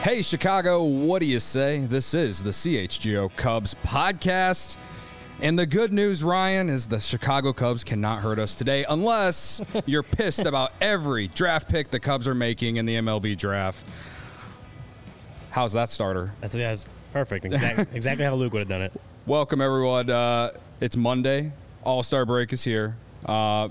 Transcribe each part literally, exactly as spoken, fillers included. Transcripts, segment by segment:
Hey, Chicago, what do you say? This is the C H G O Cubs podcast. And the good news, Ryan, is the Chicago Cubs cannot hurt us today unless you're pissed about every draft pick the Cubs are making in the M L B draft. How's that starter? That's, yeah, that's perfect. Exactly, exactly how Luke would have done it. Welcome, everyone. Uh, it's Monday. All-Star break is here. Uh,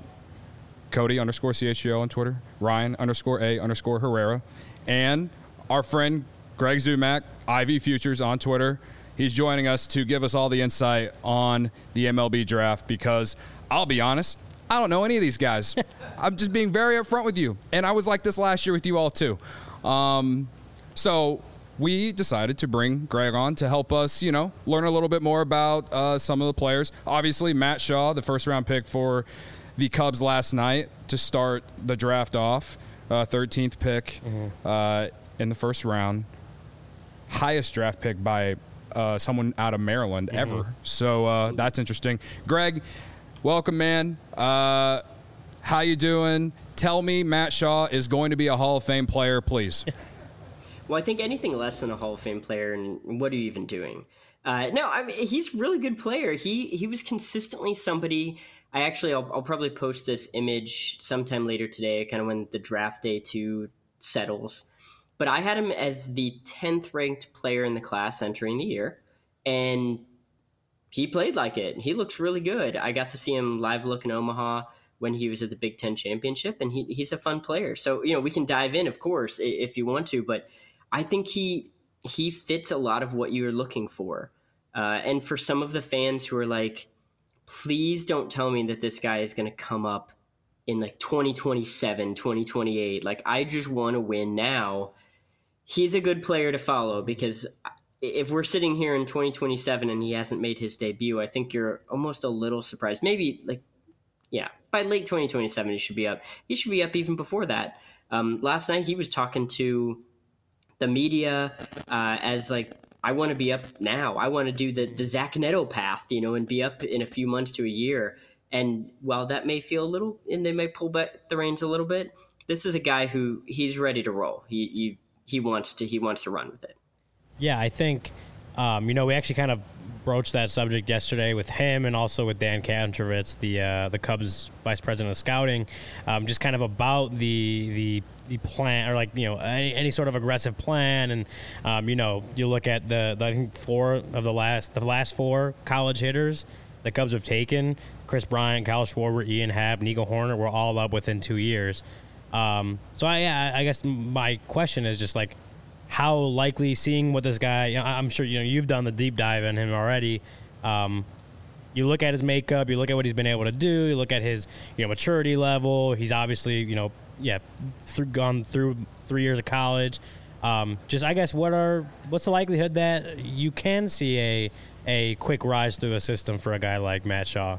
Cody underscore C H G O on Twitter. Ryan underscore A underscore Herrera. And our friend Greg Zumack, I V Futures on Twitter. He's joining us to give us all the insight on the M L B draft because I'll be honest, I don't know any of these guys. I'm just being very upfront with you. And I was like this last year with you all too. Um, so we decided to bring Greg on to help us, you know, learn a little bit more about uh, some of the players. Obviously, Matt Shaw, the first round pick for the Cubs last night to start the draft off, uh, thirteenth pick mm-hmm. uh, in the first round. Highest draft pick by uh, someone out of Maryland mm-hmm. ever. So uh, that's interesting. Greg, welcome, man. Uh, how you doing? Tell me Matt Shaw is going to be a Hall of Fame player, please. Well, I think anything less than a Hall of Fame player, and what are you even doing? Uh, no, I mean, he's a really good player. He he was consistently somebody. I actually, I'll, I'll probably post this image sometime later today, kind of when the draft day two settles. But I had him as the tenth ranked player in the class entering the year, and he played like it. He looks really good. I got to see him live look in Omaha when he was at the Big Ten Championship, and he he's a fun player. So, you know, we can dive in, of course, if you want to, but I think he he fits a lot of what you're looking for. Uh, and for some of the fans who are like, please don't tell me that this guy is going to come up in like twenty twenty-seven, twenty twenty-eight. Like, I just want to win now. He's a good player to follow because if we're sitting here in twenty twenty-seven and he hasn't made his debut, I think you're almost a little surprised. Maybe like, yeah, by late twenty twenty-seven, he should be up. He should be up even before that. Um, last night he was talking to the media uh, as like, I want to be up now. I want to do the, the Zach Neto path, you know, and be up in a few months to a year. And while that may feel a little, and they may pull back the reins a little bit, this is a guy who he's ready to roll. He he, he wants to he wants to run with it. Yeah, I think, um, you know, we actually kind of broached that subject yesterday with him and also with Dan Kantrovitz, the uh, the Cubs vice president of scouting, um, just kind of about the the the plan, or like, you know, any, any sort of aggressive plan. And um, you know, you look at the, the I think four of the last the last four college hitters the Cubs have taken: Chris Bryant, Kyle Schwarber, Ian Happ, Nico Horner, were all up within two years. Um, so I I guess my question is just like, how likely, seeing what this guy, you know, I'm sure, you know, you've done the deep dive in him already. Um, you look at his makeup, you look at what he's been able to do, you look at his, you know, maturity level. He's obviously, you know, yeah, through, gone through three years of college. Um, just, I guess, what are, what's the likelihood that you can see a, a quick rise through a system for a guy like Matt Shaw?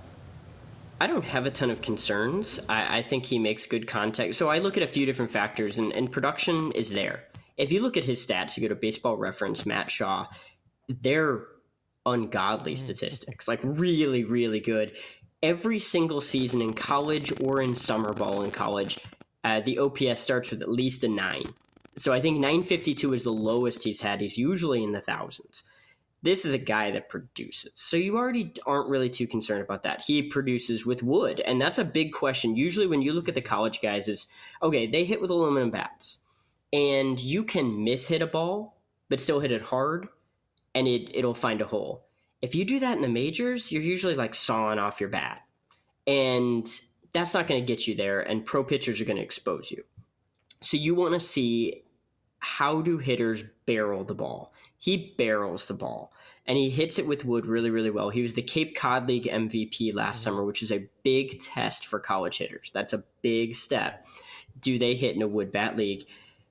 I don't have a ton of concerns. I, I think he makes good contact. So I look at a few different factors, and, and production is there. If you look at his stats, you go to Baseball Reference, Matt Shaw, they're ungodly statistics, like really, really good. Every single season in college or in summer ball in college, uh, the O P S starts with at least a nine. So I think nine fifty-two is the lowest he's had. He's usually in the thousands. This is a guy that produces. So you already aren't really too concerned about that. He produces with wood, and that's a big question. Usually when you look at the college guys, is, okay, they hit with aluminum bats. And you can mishit a ball, but still hit it hard, and it, it'll find a hole. If you do that in the majors, you're usually like sawing off your bat. And that's not going to get you there, and pro pitchers are going to expose you. So you want to see, how do hitters barrel the ball? He barrels the ball, and he hits it with wood really, really well. He was the Cape Cod League M V P last summer, which is a big test for college hitters. That's a big step. Do they hit in a wood bat league?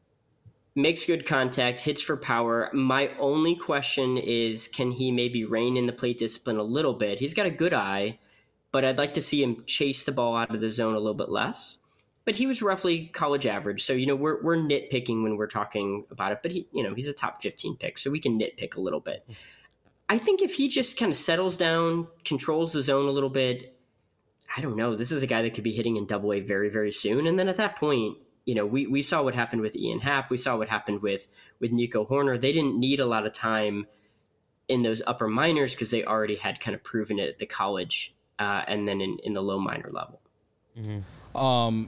Makes good contact, hits for power. My only question is, can he maybe rein in the plate discipline a little bit? He's got a good eye, but I'd like to see him chase the ball out of the zone a little bit less. But he was roughly college average. So, you know, we're we're nitpicking when we're talking about it. But, he, you know, he's a top fifteen pick, so we can nitpick a little bit. I think if he just kind of settles down, controls the zone a little bit, I don't know. This is a guy that could be hitting in Double A very, very soon. And then at that point, you know, we, we saw what happened with Ian Happ. We saw what happened with, with Nico Horner. They didn't need a lot of time in those upper minors because they already had kind of proven it at the college uh, and then in, in the low minor level. Mm-hmm. Um,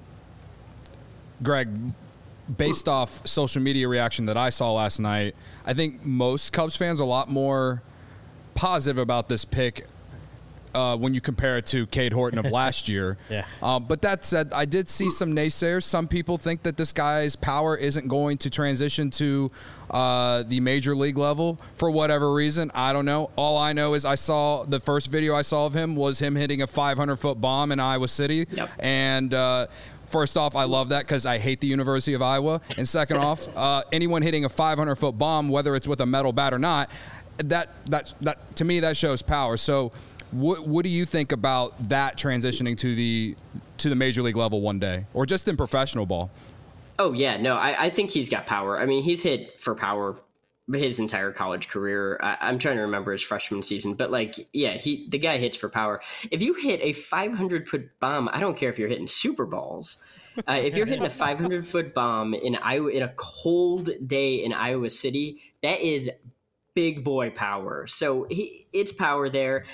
Greg, based off social media reaction that I saw last night, I think most Cubs fans are a lot more positive about this pick uh, when you compare it to Cade Horton of last year. Yeah. Um, but that said, I did see some naysayers. Some people think that this guy's power isn't going to transition to uh, the major league level for whatever reason. I don't know. All I know is I saw the first video I saw of him was him hitting a five hundred foot bomb in Iowa City. Yep. And uh, first off, I love that because I hate the University of Iowa. And second off, uh, anyone hitting a five hundred foot bomb, whether it's with a metal bat or not, that that that to me that shows power. So what what do you think about that transitioning to the to the major league level one day, or just in professional ball? Oh yeah, no, I, I think he's got power. I mean, he's hit for power his entire college career. I, I'm trying to remember his freshman season, but like, yeah, he the guy hits for power. If you hit a five hundred foot bomb, I don't care if you're hitting Super Balls. Uh, if you're hitting a five hundred foot bomb in Iowa in a cold day in Iowa City, that is big boy power. So he, it's power there.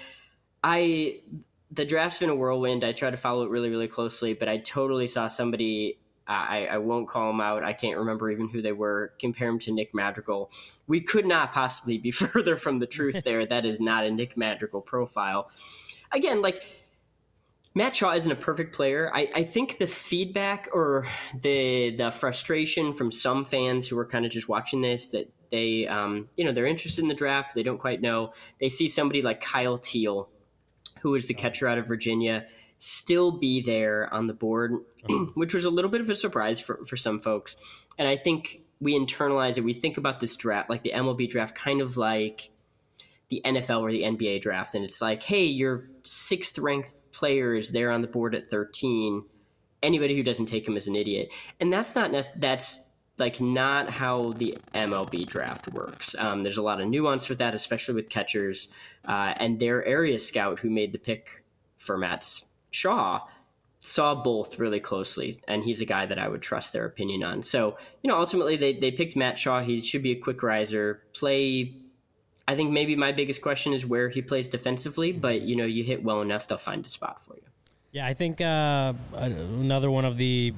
I the draft's been a whirlwind. I try to follow it really, really closely, but I totally saw somebody. Uh, I, I won't call him out. I can't remember even who they were. Compare him to Nick Madrigal. We could not possibly be further from the truth there. That is not a Nick Madrigal profile. Again, like Matt Shaw isn't a perfect player. I, I think the feedback or the the frustration from some fans who are kind of just watching this that they, um, you know, they're interested in the draft. They don't quite know. They see somebody like Kyle Teal, who is the catcher out of Virginia, still be there on the board, which was a little bit of a surprise for, for some folks. And I think we internalize it. We think about this draft, like the M L B draft, kind of like the N F L or the N B A draft. And it's like, hey, your sixth ranked player is there on the board at thirteen. Anybody who doesn't take him is an idiot. And that's not, that's like not how the M L B draft works. Um, there's a lot of nuance with that, especially with catchers. Uh, and their area scout who made the pick for Matt Shaw saw both really closely, and he's a guy that I would trust their opinion on. So, you know, ultimately they, they picked Matt Shaw. He should be a quick riser. Play, I think maybe my biggest question is where he plays defensively, but, you know, you hit well enough, they'll find a spot for you. Yeah, I think uh, another one of the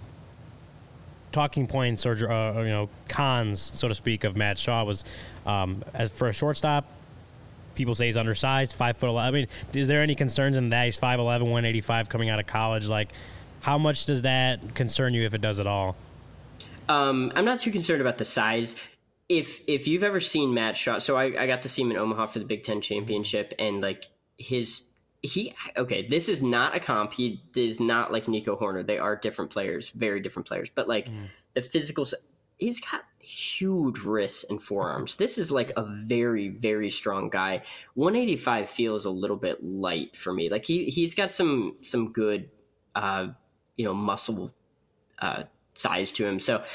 talking points or, uh, you know, cons, so to speak, of Matt Shaw was um, as for a shortstop, people say he's undersized, five foot eleven. I mean, is there any concerns in that? He's five eleven, one eighty-five coming out of college. Like, how much does that concern you, if it does at all? Um, I'm not too concerned about the size. If if you've ever seen Matt Shaw, so I, I got to see him in Omaha for the Big Ten championship, and like his he okay, this is not a comp. He is not like Nico Horner. They are different players, very different players. But like mm. the physical, he's got huge wrists and forearms. This is like a very, very strong guy. one eighty-five feels a little bit light for me. Like he he's got some some good, uh, you know, muscle uh, size to him. So.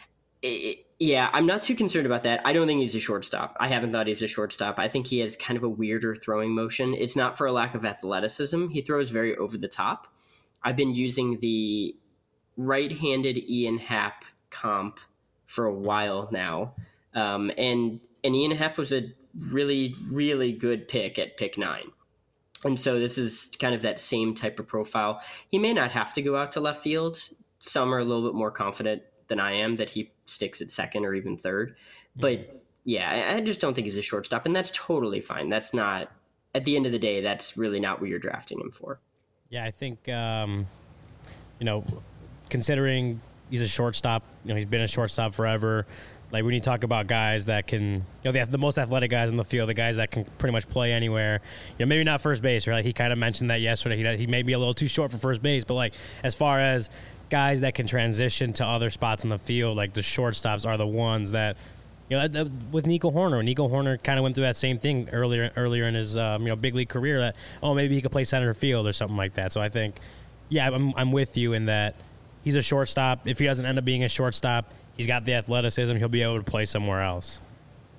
It, Yeah, I'm not too concerned about that. I don't think he's a shortstop. I haven't thought he's a shortstop. I think he has kind of a weirder throwing motion. It's not for a lack of athleticism. He throws very over the top. I've been using the right-handed Ian Happ comp for a while now. Um, and, and Ian Happ was a really, really good pick at pick nine. And so this is kind of that same type of profile. He may not have to go out to left field. Some are a little bit more confident than I am that he sticks at second or even third. But yeah, I just don't think he's a shortstop, and that's totally fine. That's not, at the end of the day, that's really not what you're drafting him for. Yeah, I think, um, you know, considering he's a shortstop, you know, he's been a shortstop forever. Like when you talk about guys that can, you know, the, the most athletic guys in the field, the guys that can pretty much play anywhere, you know, maybe not first base, right? Like he kind of mentioned that yesterday. He, he may be a little too short for first base, but like as far as guys that can transition to other spots in the field, like the shortstops are the ones that, you know, with Nico Horner. Nico Horner kind of went through that same thing earlier earlier in his um, you know, big league career that, oh, maybe he could play center field or something like that. So I think, yeah, I'm I'm with you in that he's a shortstop. If he doesn't end up being a shortstop, he's got the athleticism. He'll be able to play somewhere else.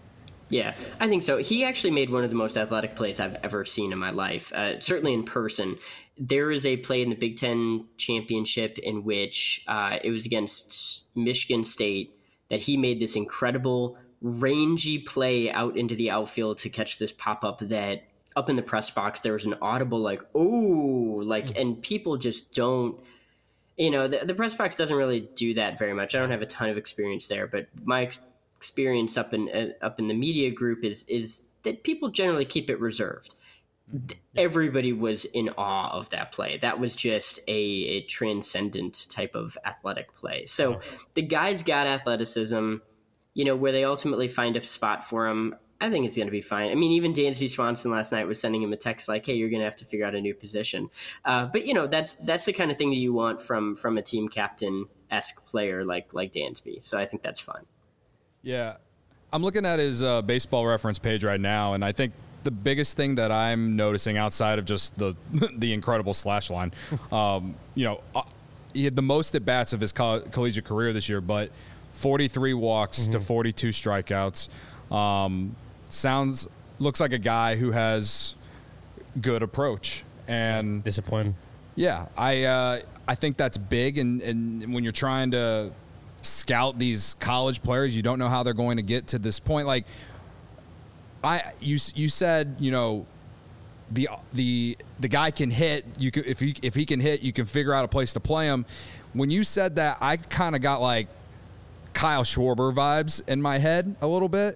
Yeah, I think so. He actually made one of the most athletic plays I've ever seen in my life, uh, certainly in person. There is a play in the Big Ten championship in which uh, it was against Michigan State that he made this incredible rangy play out into the outfield to catch this pop-up that up in the press box, there was an audible like, oh, like, and people just don't, you know, the, the press box doesn't really do that very much. I don't have a ton of experience there, but my ex- experience up in uh, up in the media group is is that people generally keep it reserved. Everybody was in awe of that play. That was just a, a transcendent type of athletic play. So the guy's got athleticism, you know, where they ultimately find a spot for him. I think it's going to be fine. I mean, even Dansby Swanson last night was sending him a text like, hey, you're going to have to figure out a new position. Uh, but, you know, that's that's the kind of thing that you want from from a team captain-esque player like like Dansby. So I think that's fun. Yeah. I'm looking at his uh, baseball reference page right now, and I think the biggest thing that I'm noticing outside of just the the incredible slash line, um, you know, uh, he had the most at-bats of his coll- collegiate career this year, but forty-three walks mm-hmm. to forty-two strikeouts. Um, sounds, looks like a guy who has good approach and discipline. Yeah, I uh, I think that's big, and, and when you're trying to scout these college players, you don't know how they're going to get to this point. Like, I you you said, you know, the the the guy can hit. You can, if he if he can hit, you can figure out a place to play him. When you said that, I kind of got like Kyle Schwarber vibes in my head a little bit.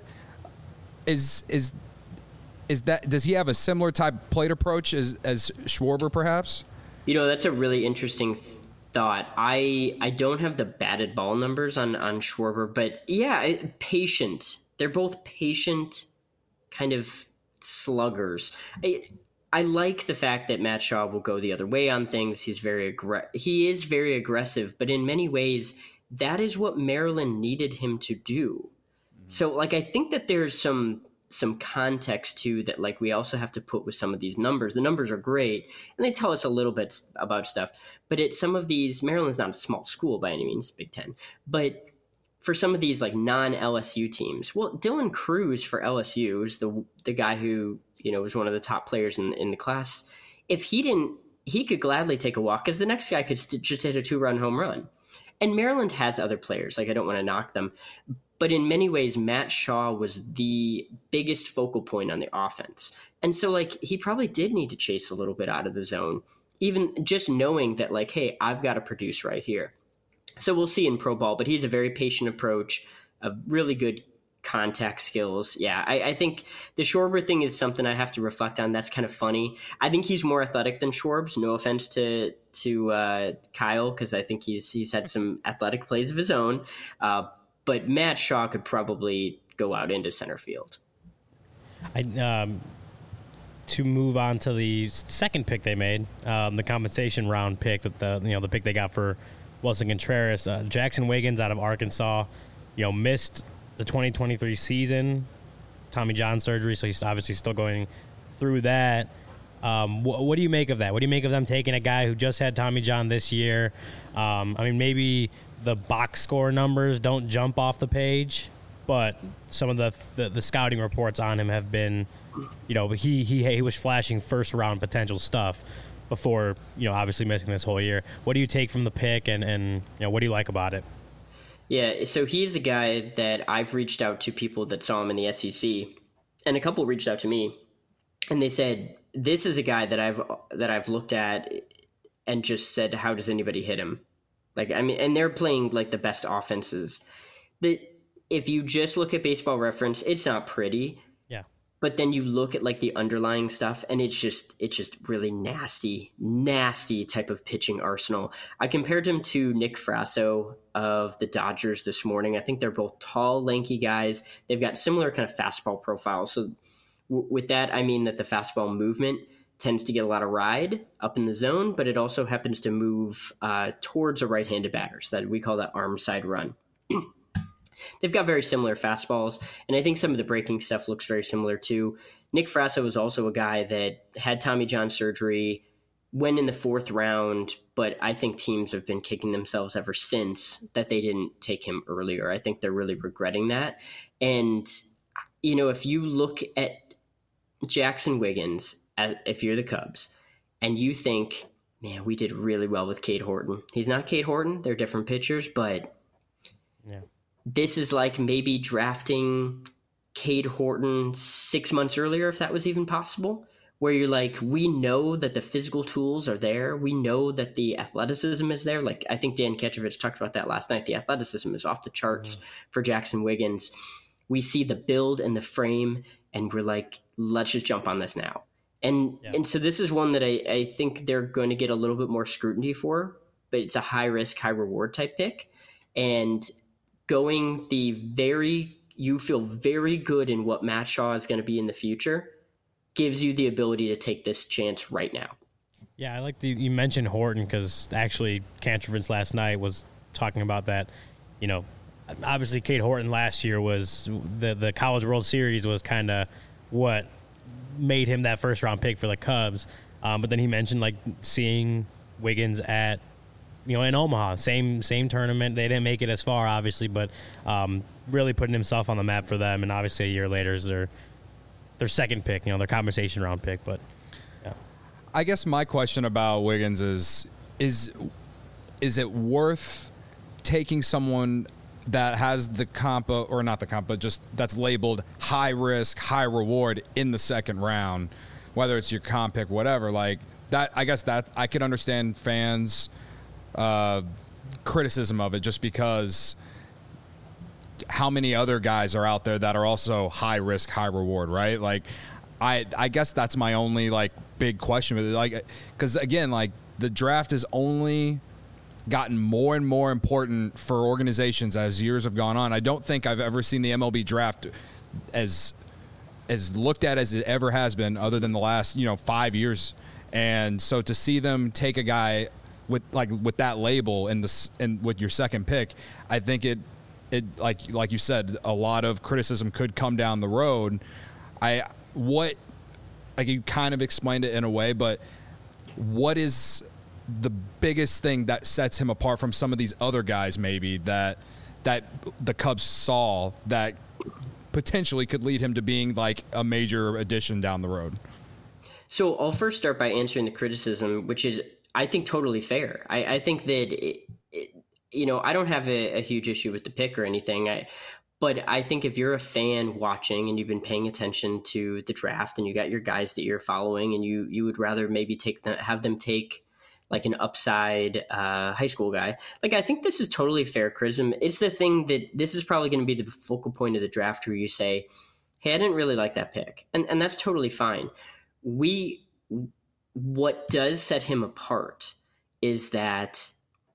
Is is is that does he have a similar type of plate approach as as Schwarber perhaps? You know, that's a really interesting th- thought. I I don't have the batted ball numbers on on Schwarber, but yeah, patient. They're both patient kind of sluggers. I, I like the fact that Matt Shaw will go the other way on things. He's very aggr- he is very aggressive, but in many ways, that is what Maryland needed him to do. Mm-hmm. So, like, I think that there's some some context too that, like, we also have to put with some of these numbers. The numbers are great, and they tell us a little bit about stuff. But at some of these, Maryland's not a small school by any means, Big Ten, but for some of these like non-L S U teams, well, Dylan Cruz for L S U is the the guy who, you know, was one of the top players in, in the class. If he didn't, he could gladly take a walk because the next guy could st- just hit a two-run home run. And Maryland has other players. Like, I don't want to knock them. But in many ways, Matt Shaw was the biggest focal point on the offense. And so, like, he probably did need to chase a little bit out of the zone, even just knowing that, like, hey, I've got to produce right here. So we'll see in pro ball, but he's a very patient approach, a really good contact skills. Yeah, I, I think the Schwarber thing is something I have to reflect on. That's kind of funny. I think he's more athletic than Schwarbs. No offense to to uh, Kyle, because I think he's he's had some athletic plays of his own. Uh, but Matt Shaw could probably go out into center field. I um, to move on to the second pick they made, um, the compensation round pick that the you know the pick they got for Wilson Contreras, uh, Jackson Wiggins out of Arkansas, you know, missed the twenty twenty-three season, Tommy John surgery, so he's obviously still going through that. Um, wh- what do you make of that? What do you make of them taking a guy who just had Tommy John this year? Um, I mean, maybe the box score numbers don't jump off the page, but some of the the, the scouting reports on him have been, you know, he he he was flashing first round potential stuff before, you know, obviously missing this whole year. What do you take from the pick, and, and you know, what do you like about it? Yeah, so he's a guy that I've reached out to people that saw him in the S E C, and a couple reached out to me, and they said, this is a guy that I've that I've looked at and just said, how does anybody hit him? Like, I mean, and they're playing like the best offenses. That if you just look at Baseball Reference, it's not pretty. Yeah. But then you look at like the underlying stuff, and it's just it's just really nasty, nasty type of pitching arsenal. I compared him to Nick Frasso of the Dodgers this morning. I think they're both tall, lanky guys. They've got similar kind of fastball profiles. So w- with that, I mean that the fastball movement tends to get a lot of ride up in the zone, but it also happens to move uh, towards a right-handed batter. So that we call that arm side run. They've got very similar fastballs, and I think some of the breaking stuff looks very similar too. Nick Frasso was also a guy that had Tommy John surgery, went in the fourth round, but I think teams have been kicking themselves ever since that they didn't take him earlier. I think they're really regretting that. And you know, if you look at Jackson Wiggins, if you're the Cubs, and you think, man, we did really well with Cade Horton. He's not Cade Horton. They're different pitchers, but yeah. This is like maybe drafting Cade Horton six months earlier, if that was even possible, where you're like, we know that the physical tools are there. We know that the athleticism is there. Like, I think Dan Ketrovich talked about that last night. The athleticism is off the charts mm-hmm. for Jackson Wiggins. We see the build and the frame, and we're like, let's just jump on this now. And yeah. and so this is one that I, I think they're going to get a little bit more scrutiny for, but it's a high risk, high reward type pick. And going the very, you feel very good in what Matt Shaw is going to be in the future, gives you the ability to take this chance right now. Yeah, I like the, you mentioned Horton, because actually Kantrovitz last night was talking about that. You know, obviously Cade Horton last year was, the, the College World Series was kind of what made him that first round pick for the Cubs. Um, but then he mentioned like seeing Wiggins at, you know, in Omaha, same same tournament. They didn't make it as far, obviously, but um, really putting himself on the map for them. And obviously, a year later is their their second pick, you know, their conversation round pick. But yeah, I guess my question about Wiggins is is is it worth taking someone that has the comp, or not the comp, but just that's labeled high risk, high reward in the second round, whether it's your comp pick, whatever, like that? I guess that I could understand fans. Uh, criticism of it, just because how many other guys are out there that are also high risk, high reward, right? Like, I I guess that's my only like big question with it, like, because again, like the draft has only gotten more and more important for organizations as years have gone on. I don't think I've ever seen the M L B draft as as looked at as it ever has been, other than the last you know five years. And so to see them take a guy with like with that label and the and with your second pick, I think it it like like you said, a lot of criticism could come down the road. I what like you kind of explained it in a way, but what is the biggest thing that sets him apart from some of these other guys maybe that that the Cubs saw that potentially could lead him to being like a major addition down the road? So I'll first start by answering the criticism, which is, I think, totally fair. I, I think that, it, it, you know, I don't have a, a huge issue with the pick or anything. I, but I think if you're a fan watching and you've been paying attention to the draft and you got your guys that you're following, and you, you would rather maybe take them, have them take like an upside uh, high school guy. Like, I think this is totally fair criticism. It's the thing that this is probably going to be the focal point of the draft where you say, hey, I didn't really like that pick. And, and that's totally fine. We, what does set him apart is that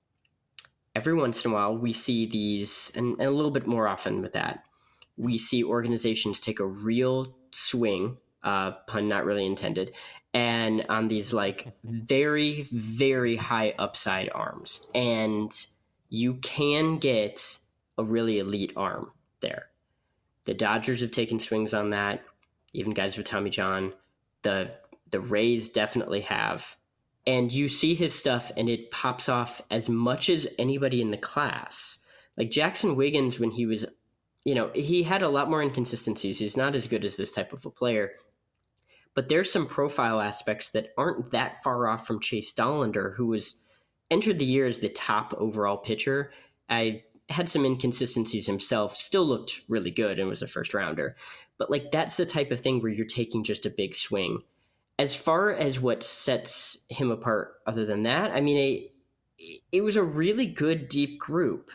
every once in a while we see these, and, and a little bit more often with that, we see organizations take a real swing, uh, pun not really intended, and on these like very, very high upside arms. And you can get a really elite arm there. The Dodgers have taken swings on that, even guys with Tommy John. The the Rays definitely have. And you see his stuff and it pops off as much as anybody in the class. Like Jackson Wiggins, when he was, you know, he had a lot more inconsistencies. He's not as good as this type of a player. But there's some profile aspects that aren't that far off from Chase Dollander, who was entered the year as the top overall pitcher. I had some inconsistencies himself, still looked really good and was a first rounder. But like, that's the type of thing where you're taking just a big swing. As far as what sets him apart other than that, I mean, it, it was a really good deep group.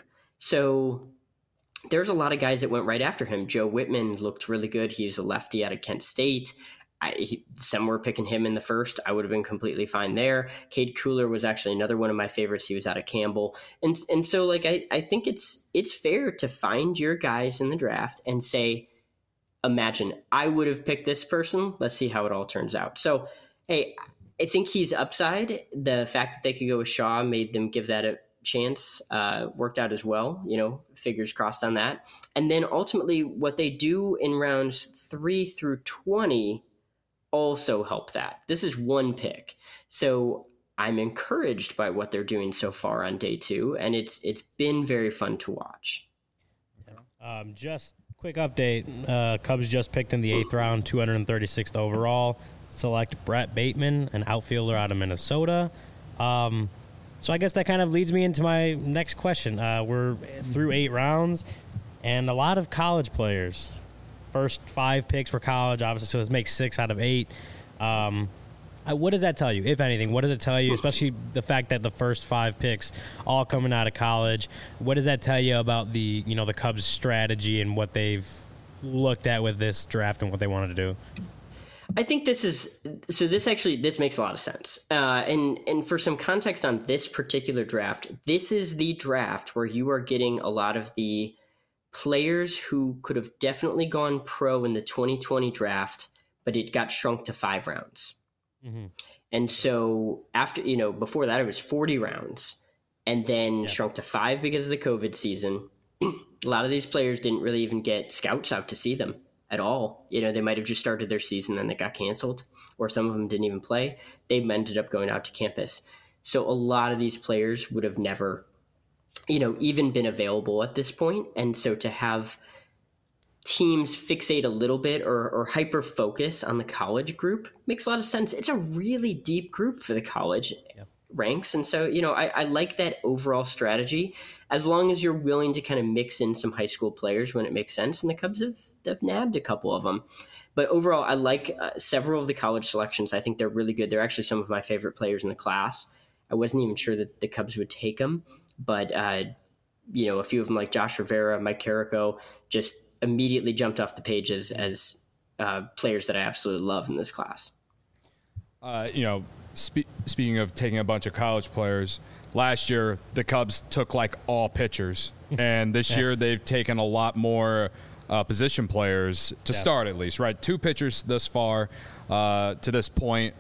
So there's a lot of guys that went right after him. Joe Whitman looked really good. He was a lefty out of Kent State. I, he, some were picking him in the first. I would have been completely fine there. Cade Kuehler was actually another one of my favorites. He was out of Campbell. And and so like I, I think it's it's fair to find your guys in the draft and say, imagine I would have picked this person. Let's see how it all turns out. So, hey, I think he's upside. The fact that they could go with Shaw made them give that a chance, uh, worked out as well, you know, fingers crossed on that. And then ultimately what they do in rounds three through twenty also help that. This is one pick. So I'm encouraged by what they're doing so far on day two, and it's it's been very fun to watch. Um, just Quick update. Uh, Cubs just picked in the eighth round, two hundred thirty-sixth overall. Select Brett Bateman, an outfielder out of Minnesota. Um, so I guess that kind of leads me into my next question. Uh, we're through eight rounds, and a lot of college players. First five picks for college, obviously, so this makes six out of eight. Um, what does that tell you, if anything? What does it tell you, especially the fact that the first five picks all coming out of college? What does that tell you about the, you know, the Cubs' strategy and what they've looked at with this draft and what they wanted to do? I think this is so. This actually this makes a lot of sense. Uh, and and for some context on this particular draft, this is the draft where you are getting a lot of the players who could have definitely gone pro in the twenty twenty draft, but it got shrunk to five rounds. Mm-hmm. And so after, you know, before that it was forty rounds and then yeah. shrunk to five because of the COVID season. A lot of these players didn't really even get scouts out to see them at all. You know, they might have just started their season and it got canceled, or some of them didn't even play. They ended up going out to campus. So a lot of these players would have never, you know, even been available at this point. And so to have teams fixate a little bit or, or hyper focus on the college group makes a lot of sense. It's a really deep group for the college yeah. ranks. And so, you know, I, I like that overall strategy, as long as you're willing to kind of mix in some high school players when it makes sense. And the Cubs have, have nabbed a couple of them. But overall, I like uh, several of the college selections. I think they're really good. They're actually some of my favorite players in the class. I wasn't even sure that the Cubs would take them. But, uh, you know, a few of them like Josh Rivera, Mike Carrico, just immediately jumped off the pages as uh, players that I absolutely love in this class. Uh, you know, spe- speaking of taking a bunch of college players, last year the Cubs took like all pitchers, and this year they've taken a lot more uh, position players to yeah. start, at least, right? Two pitchers this far uh, to this point.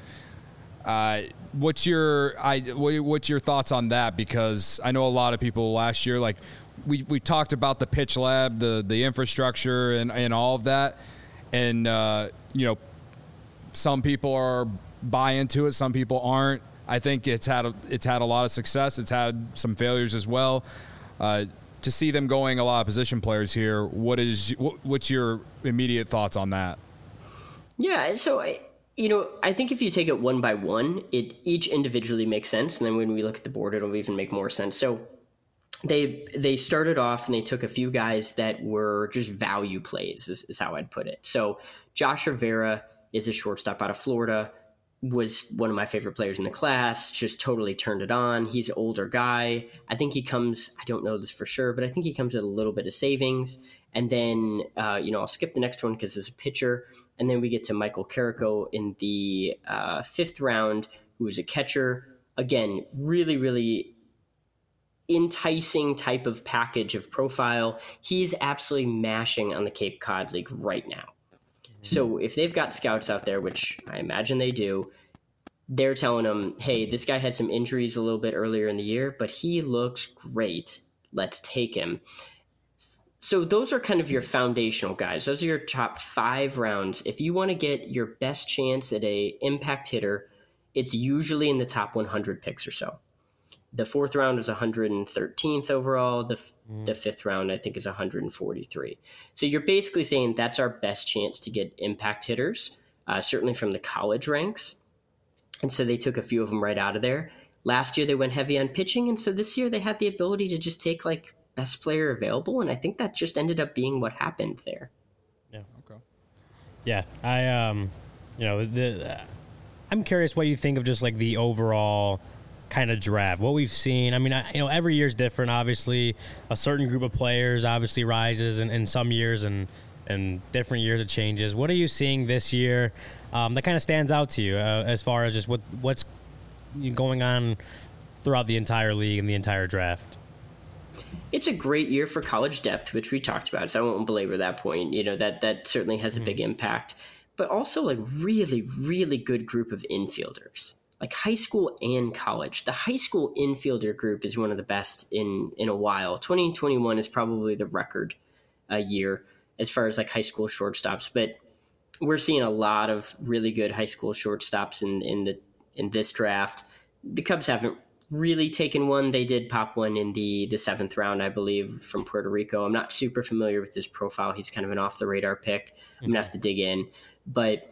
Uh, what's your I what's your thoughts on that? Because I know a lot of people last year, like we we talked about the pitch lab, the the infrastructure, and and all of that, and uh, you know, some people are buy into it, some people aren't. I think it's had a, it's had a lot of success. It's had some failures as well. Uh, to see them going a lot of position players here, what is what, what's your immediate thoughts on that? Yeah, so I. You know, I think if you take it one by one, it each individually makes sense. And then when we look at the board, it'll even make more sense. So they they started off and they took a few guys that were just value plays, is, is how I'd put it. So Josh Rivera is a shortstop out of Florida, was one of my favorite players in the class, just totally turned it on. He's an older guy. I think he comes, I don't know this for sure, but I think he comes with a little bit of savings. And then, uh, you know, I'll skip the next one because it's a pitcher. And then we get to Michael Carrico in the uh, fifth round, who is a catcher. Again, really, really enticing type of package of profile. He's absolutely mashing on the Cape Cod League right now. So if they've got scouts out there, which I imagine they do, they're telling them, hey, this guy had some injuries a little bit earlier in the year, but he looks great. Let's take him. So those are kind of your foundational guys. Those are your top five rounds. If you want to get your best chance at a impact hitter, it's usually in the top one hundred picks or so. The fourth round is one hundred thirteenth overall. The mm. the fifth round, I think, is one hundred forty-three. So you're basically saying that's our best chance to get impact hitters, uh, certainly from the college ranks. And so they took a few of them right out of there. Last year, they went heavy on pitching. And so this year, they had the ability to just take, like, best player available, and I think that just ended up being what happened there. Yeah. Okay. Yeah, I um, you know, the uh, I'm curious what you think of just like the overall kind of draft. What we've seen. I mean, I, you know, every year's different. Obviously, a certain group of players obviously rises in, in some years, and and different years it changes. What are you seeing this year um, that kind of stands out to you uh, as far as just what what's going on throughout the entire league and the entire draft? It's a great year for college depth, which we talked about, so I won't belabor that point. You know, that that certainly has a big impact. But also, like, really, really good group of infielders, like high school and college. The high school infielder group is one of the best in, in a while. twenty twenty-one is probably the record uh, year as far as, like, high school shortstops. But we're seeing a lot of really good high school shortstops in, in, the, in this draft. The Cubs haven't really taken one. They did pop one in the the seventh round, I believe, from Puerto Rico. I'm not super familiar with his profile. He's kind of an off the radar pick. I'm gonna have to dig in, but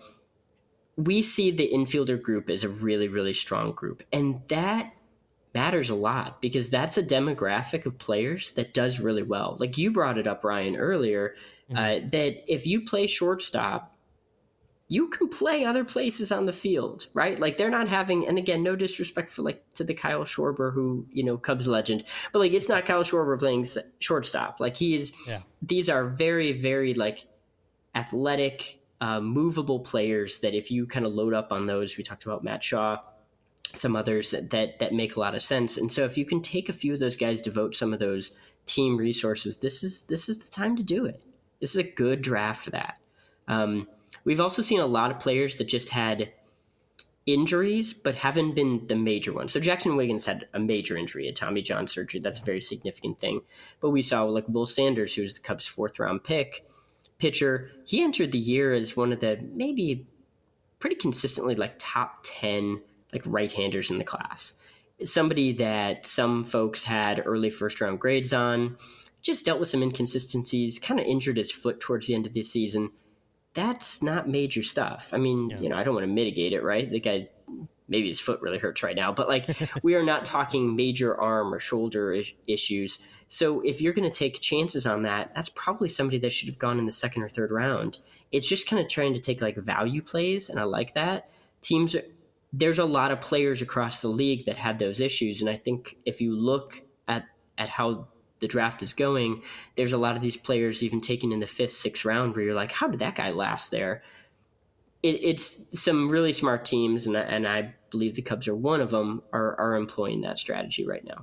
we see the infielder group as a really, really strong group, and that matters a lot because that's a demographic of players that does really well. Like you brought it up, Ryan, earlier, mm-hmm. uh, that if you play shortstop, you can play other places on the field, right? Like they're not having, and again, no disrespect for like to the Kyle Schwarber, who, you know, Cubs legend, but like it's not Kyle Schwarber playing shortstop. Like he is, yeah. These are very, very like athletic, uh, movable players that if you kind of load up on those, we talked about Matt Shaw, some others that, that make a lot of sense. And so if you can take a few of those guys, devote some of those team resources, this is, this is the time to do it. This is a good draft for that. Um, We've also seen a lot of players that just had injuries, but haven't been the major ones. So Jackson Wiggins had a major injury, a Tommy John surgery. That's a very significant thing. But we saw like Will Sanders, who was the Cubs' fourth round pick, pitcher. He entered the year as one of the maybe pretty consistently like top ten like right-handers in the class. Somebody that some folks had early first round grades on, just dealt with some inconsistencies, kind of injured his foot towards the end of the season. That's not major stuff. I mean, yeah. you know, I don't want to mitigate it, right? The guy, maybe his foot really hurts right now, but like we are not talking major arm or shoulder is- issues. So if you're going to take chances on that, that's probably somebody that should have gone in the second or third round. It's just kind of trying to take like value plays, and I like that. Teams, there's a lot of players across the league that had those issues, and I think if you look at at how the draft is going, there's a lot of these players even taken in the fifth, sixth round where you're like, how did that guy last there? It, it's some really smart teams, and I, and I believe the Cubs are one of them, are, are employing that strategy right now.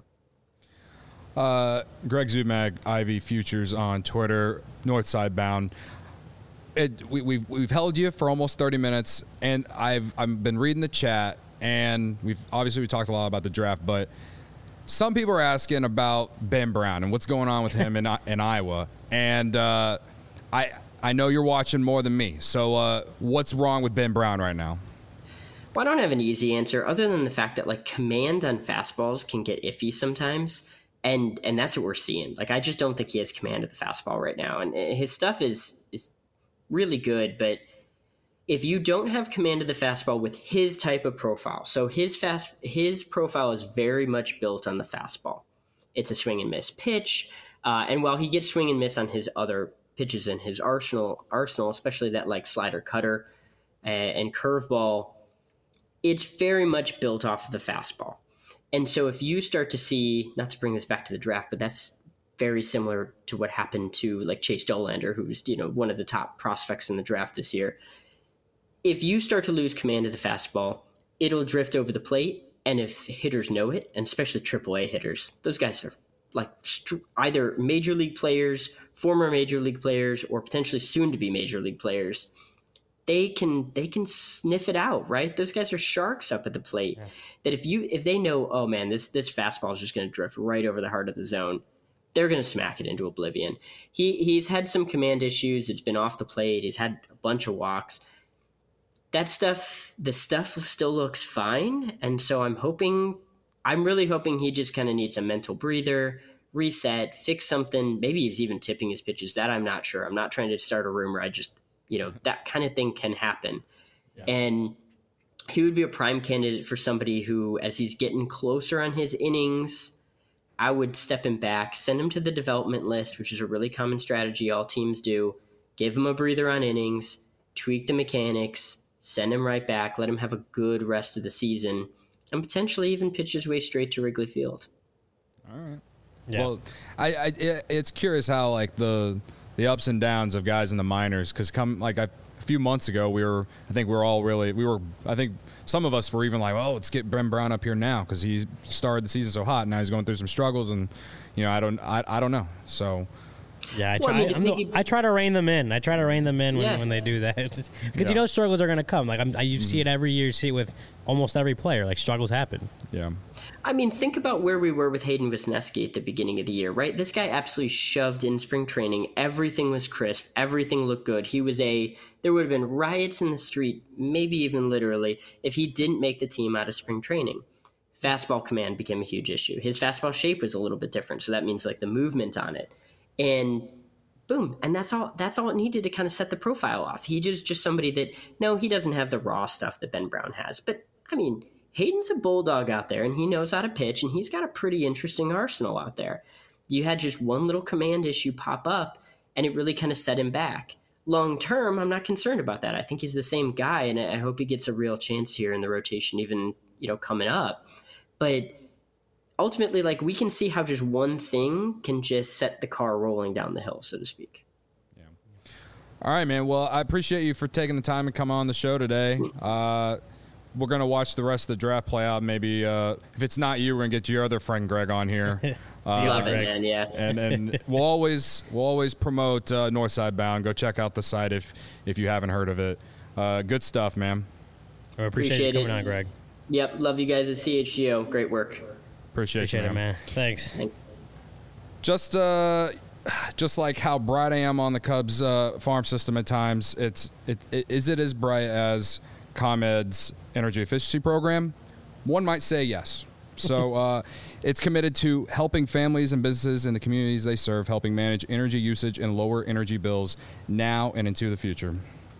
Uh, Greg Zumag, Ivy Futures on Twitter, Northside Bound. It, we, we've we've held you for almost thirty minutes, and I've I've been reading the chat, and we've obviously we talked a lot about the draft, but some people are asking about Ben Brown and what's going on with him in in Iowa, and uh, I I know you're watching more than me. So uh, what's wrong with Ben Brown right now? Well, I don't have an easy answer other than the fact that like command on fastballs can get iffy sometimes, and and that's what we're seeing. Like I just don't think he has command of the fastball right now, and his stuff is is really good, but if you don't have command of the fastball with his type of profile, so his fast his profile is very much built on the fastball. It's a swing and miss pitch, uh, and while he gets swing and miss on his other pitches in his arsenal, arsenal, especially that like slider, cutter, uh, and curveball, it's very much built off of the fastball. And so if you start to see, not to bring this back to the draft, but that's very similar to what happened to like Chase Dollander, who's you know one of the top prospects in the draft this year. If you start to lose command of the fastball, it'll drift over the plate. And if hitters know it, and especially triple A hitters, those guys are like st- either major league players, former major league players, or potentially soon to be major league players. They can they can sniff it out, right? Those guys are sharks up at the plate. Yeah. That if you if they know, oh man, this this fastball is just going to drift right over the heart of the zone, they're going to smack it into oblivion. He he's had some command issues. It's been off the plate. He's had a bunch of walks. That stuff, the stuff still looks fine. And so I'm hoping, I'm really hoping he just kind of needs a mental breather, reset, fix something. Maybe he's even tipping his pitches. That I'm not sure. I'm not trying to start a rumor. I just, you know, that kind of thing can happen. Yeah. And he would be a prime candidate for somebody who, as he's getting closer on his innings, I would step him back, send him to the development list, which is a really common strategy all teams do. Give him a breather on innings, tweak the mechanics, send him right back, let him have a good rest of the season, and potentially even pitch his way straight to Wrigley Field. All right. Yeah. Well, I, I it, it's curious how like the the ups and downs of guys in the minors, because come like I, a few months ago we were I think we we're all really we were I think some of us were even like, oh, let's get Ben Brown up here now because he started the season so hot. Now he's going through some struggles, and you know I don't I, I don't know so. Yeah, I try. Well, I, mean, no, I try to rein them in. I try to rein them in when, yeah. when they do that, because yeah. you know struggles are going to come. Like I'm, I, you mm-hmm. see it every year. You see it with almost every player. Like struggles happen. Yeah. I mean, think about where we were with Hayden Wesneski at the beginning of the year, right? This guy absolutely shoved in spring training. Everything was crisp. Everything looked good. He was a. There would have been riots in the street, maybe even literally, if he didn't make the team out of spring training. fastball command became a huge issue. His fastball shape was a little bit different, so that means like the movement on it, and boom, and that's all. That's all it needed to kind of set the profile off. He just just somebody that no, he doesn't have the raw stuff that Ben Brown has, but I mean, Hayden's a bulldog out there, and he knows how to pitch, and he's got a pretty interesting arsenal out there. You had just one little command issue pop up, and it really kind of set him back. Long term, I'm not concerned about that. I think he's the same guy, and I hope he gets a real chance here in the rotation, even you know coming up. But ultimately, like we can see how just one thing can just set the car rolling down the hill, so to speak. Yeah. All right, man. Well, I appreciate you for taking the time to come on the show today. Uh, we're gonna watch the rest of the draft play out. Maybe uh, if it's not you, we're gonna get your other friend Greg on here. Uh, Love it, man. Yeah. And and we'll always we'll always promote uh, Northside Bound. Go check out the site if if you haven't heard of it. Uh, good stuff, man. I appreciate, appreciate you coming it. on, Greg. Yep. Love you guys at C H G O. Great work. Appreciate, appreciate you, it, man. man. Thanks. Thanks. Just uh, just like how bright I am on the Cubs uh, farm system at times, it's it, it is it as bright as ComEd's energy efficiency program? One might say yes. So uh, it's committed to helping families and businesses in the communities they serve, helping manage energy usage and lower energy bills now and into the future.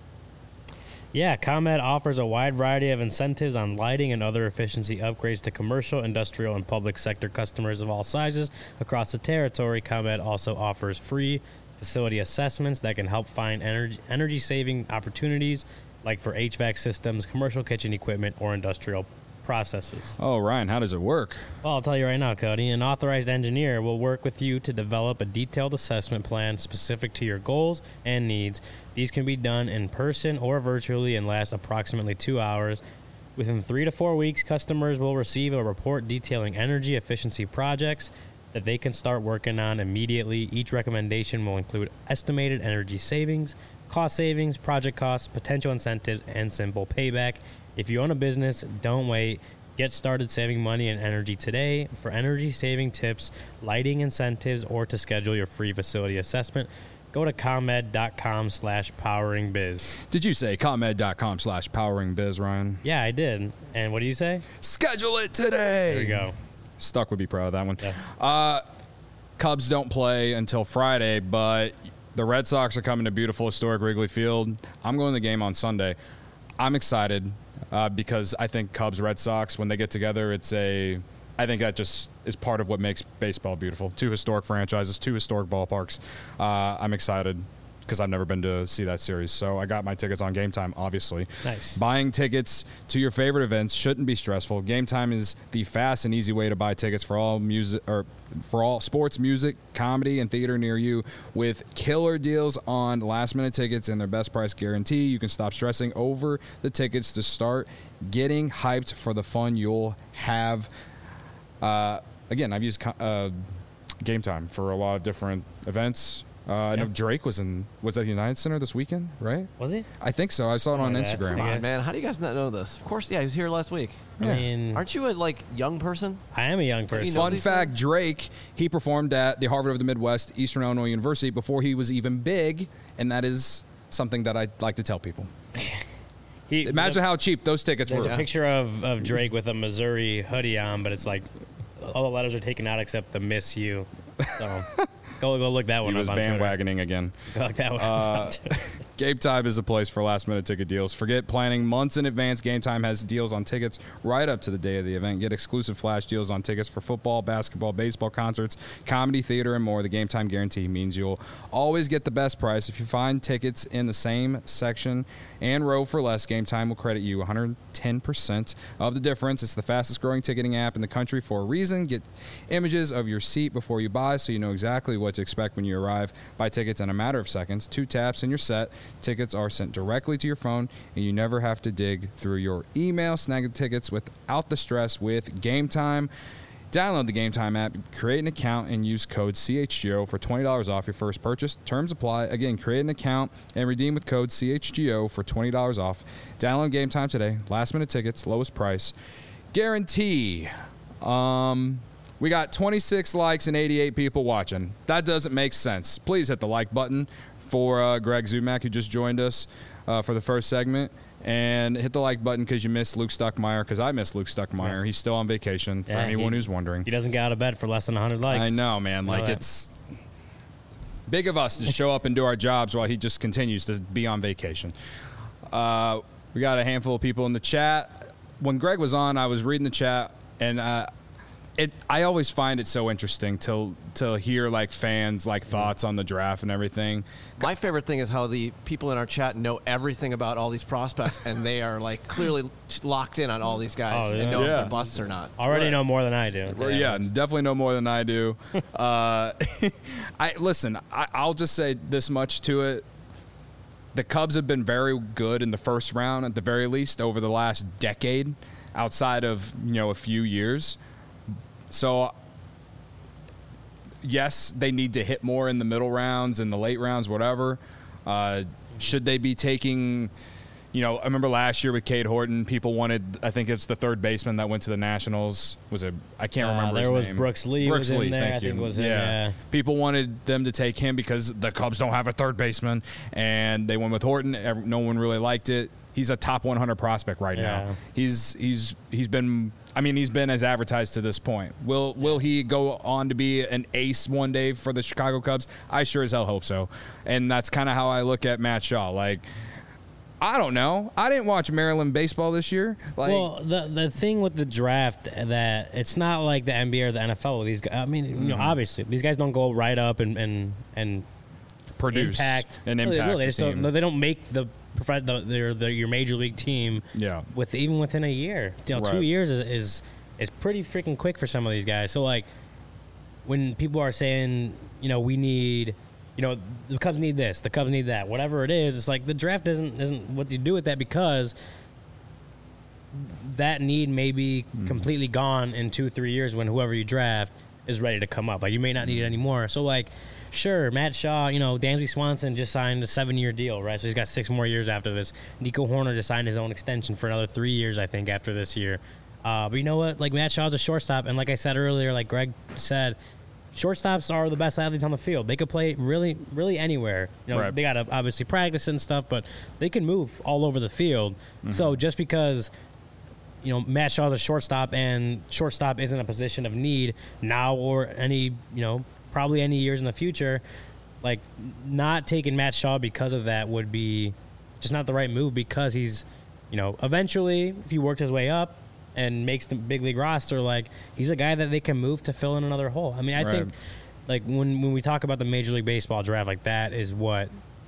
Yeah, ComEd offers a wide variety of incentives on lighting and other efficiency upgrades to commercial, industrial, and public sector customers of all sizes across the territory. ComEd also offers free facility assessments that can help find energy energy saving opportunities, like for H V A C systems, commercial kitchen equipment, or industrial processes. Oh, Ryan, how does it work? Well, I'll tell you right now, Cody. An authorized engineer will work with you to develop a detailed assessment plan specific to your goals and needs. These can be done in person or virtually and last approximately two hours. Within three to four weeks, customers will receive a report detailing energy efficiency projects that they can start working on immediately. Each recommendation will include estimated energy savings, cost savings, project costs, potential incentives, and simple payback. If you own a business, don't wait. Get started saving money and energy today. For energy saving tips, lighting incentives, or to schedule your free facility assessment, go to ComEd.com slash powering biz. Did you say ComEd.com slash powering biz, Ryan? Yeah, I did. And what do you say? Schedule it today. There we go. Stuck would be proud of that one. Yeah. Uh, Cubs don't play until Friday, but the Red Sox are coming to beautiful, historic Wrigley Field. I'm going to the game on Sunday. I'm excited uh, because I think Cubs, Red Sox, when they get together, it's a – I think that just is part of what makes baseball beautiful. Two historic franchises, two historic ballparks. Uh, I'm excited because I've never been to see that series. So I got my tickets on Game Time, obviously. Nice. Buying tickets to your favorite events shouldn't be stressful. Game Time is the fast and easy way to buy tickets for all music or for all sports, music, comedy, and theater near you. With killer deals on last-minute tickets and their best price guarantee, you can stop stressing over the tickets to start getting hyped for the fun you'll have. Uh, again, I've used uh, Game Time for a lot of different events. Uh, I know Drake was in was at the United Center this weekend, right? Was he? I think so. I saw it on Oh, yeah. Instagram. Come on, man. How do you guys not know this? Of course, yeah, he was here last week. I Yeah. mean, Aren't you a, like, young person? I am a young person. You know Fun these fact, things? Drake, he performed at the Harvard of the Midwest, Eastern Illinois University before he was even big, and that is something that I like to tell people. He, Imagine the, how cheap those tickets There's were. a picture of, of Drake with a Missouri hoodie on, but it's like all the letters are taken out except the Miss You. So go go look that He one was up on Twitter. bandwagoning again. Go look that one Uh, up on Twitter. Game Time is a place for last-minute ticket deals. Forget planning months in advance. Game Time has deals on tickets right up to the day of the event. Get exclusive flash deals on tickets for football, basketball, baseball, concerts, comedy, theater, and more. The Game Time guarantee means you'll always get the best price. If you find tickets in the same section and row for less, Game Time will credit you one hundred ten percent of the difference. It's the fastest-growing ticketing app in the country for a reason. Get images of your seat before you buy so you know exactly what to expect when you arrive. Buy tickets in a matter of seconds. Two taps and you're set. Tickets are sent directly to your phone, and you never have to dig through your email. Snag the tickets without the stress with Game Time. Download the Game Time app, create an account, and use code C H G O for twenty dollars off your first purchase. Terms apply. Again, create an account and redeem with code C H G O for twenty dollars off. Download Game Time today. Last-minute tickets, lowest price. Guarantee. Um... We got twenty-six likes and eighty-eight people watching. That doesn't make sense. Please hit the like button for uh, Greg Zumack, who just joined us uh, for the first segment. And hit the like button because you missed Luke Stuckmeyer, because I missed Luke Stuckmeyer. Yeah. He's still on vacation, for yeah, anyone he, who's wondering. He doesn't get out of bed for less than one hundred likes. I know, man. Like, know it's big of us to show up and do our jobs while he just continues to be on vacation. Uh, we got a handful of people in the chat. When Greg was on, I was reading the chat, and uh, it. I always find it so interesting to to hear like fans like thoughts on the draft and everything. My favorite thing is how the people in our chat know everything about all these prospects, and they are like clearly locked in on all these guys Oh, yeah. and know Yeah. if they're busts or not. Already Right. know more than I do. Well, yeah, definitely know more than I do. uh, I listen. I, I'll just say this much to it: the Cubs have been very good in the first round, at the very least, over the last decade, outside of you know a few years. So, yes, they need to hit more in the middle rounds and the late rounds, whatever. Uh, should they be taking? You know, I remember last year with Cade Horton, people wanted, I think it's the third baseman that went to the Nationals. Was it, I can't Uh, remember his there was name. Brooks Lee Brooks was in Lee, there, thank I think you. was in, yeah. People wanted them to take him because the Cubs don't have a third baseman, and they went with Horton. Ev- No one really liked it. He's a top one hundred prospect right Yeah. now. He's he's he's been, I mean, he's been as advertised to this point. Will will he go on to be an ace one day for the Chicago Cubs? I sure as hell hope so. And that's kind of how I look at Matt Shaw. Like, I don't know. I didn't watch Maryland baseball this year. Like, well, the the thing with the draft that it's not like the N B A or the N F L. These guys, I mean, you know, obviously these guys don't go right up and and and produce impact an No, they- impact. no, they a just team. don't. They don't make the prof- the, their, their your major league team. Yeah. With even within a year, you know, two Right. years is, is is pretty freaking quick for some of these guys. So like, when people are saying, you know, we need. You know, the Cubs need this, the Cubs need that, whatever it is. It's like the draft isn't isn't what you do with that, because that need may be Mm. completely gone in two, three years when whoever you draft is ready to come up. Like, you may not need it anymore. So, like, sure, Matt Shaw, you know, Dansby Swanson just signed a seven-year deal, right? So he's got six more years after this. Nico Horner just signed his own extension for another three years, I think, after this year. Uh, but you know what? Like, Matt Shaw's a shortstop, and like I said earlier, like Greg said, shortstops are the best athletes on the field. They could play really, really anywhere. You know, Right. they got to obviously practice and stuff, but they can move all over the field. Mm-hmm. So just because, you know, Matt Shaw's a shortstop and shortstop isn't a position of need now or any, you know, probably any years in the future, like, not taking Matt Shaw because of that would be just not the right move, because he's, you know, eventually, if he worked his way up and makes the big league roster, like, he's a guy that they can move to fill in another hole. I mean, I Right. think, like, when, when we talk about the Major League Baseball draft, like, that is what,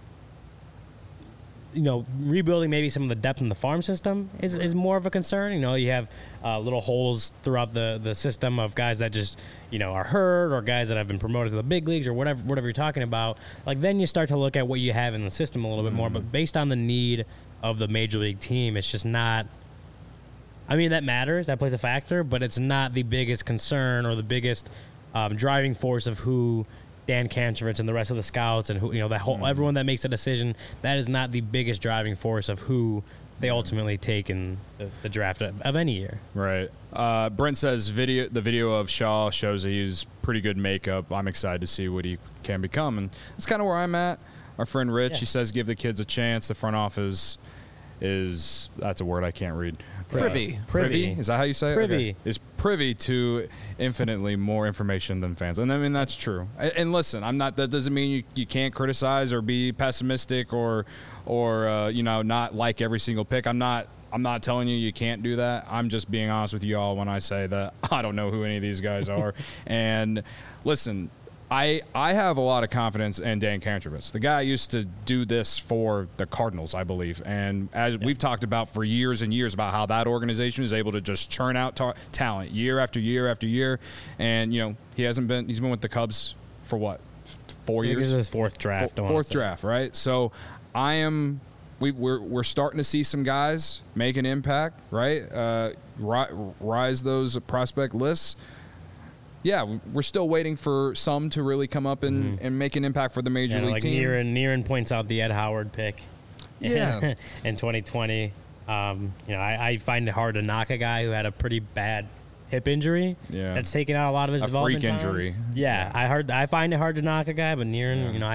you know, rebuilding maybe some of the depth in the farm system is, is more of a concern. You know, you have uh, little holes throughout the, the system of guys that just, you know, are hurt, or guys that have been promoted to the big leagues, or whatever whatever you're talking about. Like, then you start to look at what you have in the system a little bit more. But based on the need of the Major League team, it's just not. I mean, that matters. That plays a factor, but it's not the biggest concern or the biggest um, driving force of who Dan Kantrovitz and the rest of the scouts and who, you know, that whole everyone that makes a decision. That is not the biggest driving force of who they ultimately take in the, the draft of, of any year. Right. Uh, Brent says video. The video of Shaw shows that he's pretty good makeup. I'm excited to see what he can become, and that's kind of where I'm at. Our friend Rich, Yeah. he says, give the kids a chance. The front office is that's a word I can't read. Privy. Uh, privy. Is that how you say it? Privy. Okay. Is privy to infinitely more information than fans, and I mean that's true. And, and listen, I'm not. That doesn't mean you, you can't criticize or be pessimistic or or uh, you know not like every single pick. I'm not. I'm not telling you you can't do that. I'm just being honest with you all when I say that I don't know who any of these guys are. And listen, I I have a lot of confidence in Dan Kantrovitz. The guy used to do this for the Cardinals, I believe. And as we've talked about for years and years about how that organization is able to just churn out ta- talent year after year after year. And, you know, he hasn't been – he's been with the Cubs for what, four I think years? this is his fourth draft. I wanna Fourth say. draft, right? So I am – we, we're we're starting to see some guys make an impact, right? Uh, ri- rise those prospect lists. Yeah, we're still waiting for some to really come up and, and make an impact for the major And league like team. Nieran, Nieran points out the Ed Howard pick. Yeah. in twenty twenty. Um, you know, I, I find it hard to knock a guy who had a pretty bad hip injury. Yeah. That's taken out a lot of his A development freak time. injury. Yeah, I heard. I find it hard to knock a guy, but Nieran, Yeah. you know, I,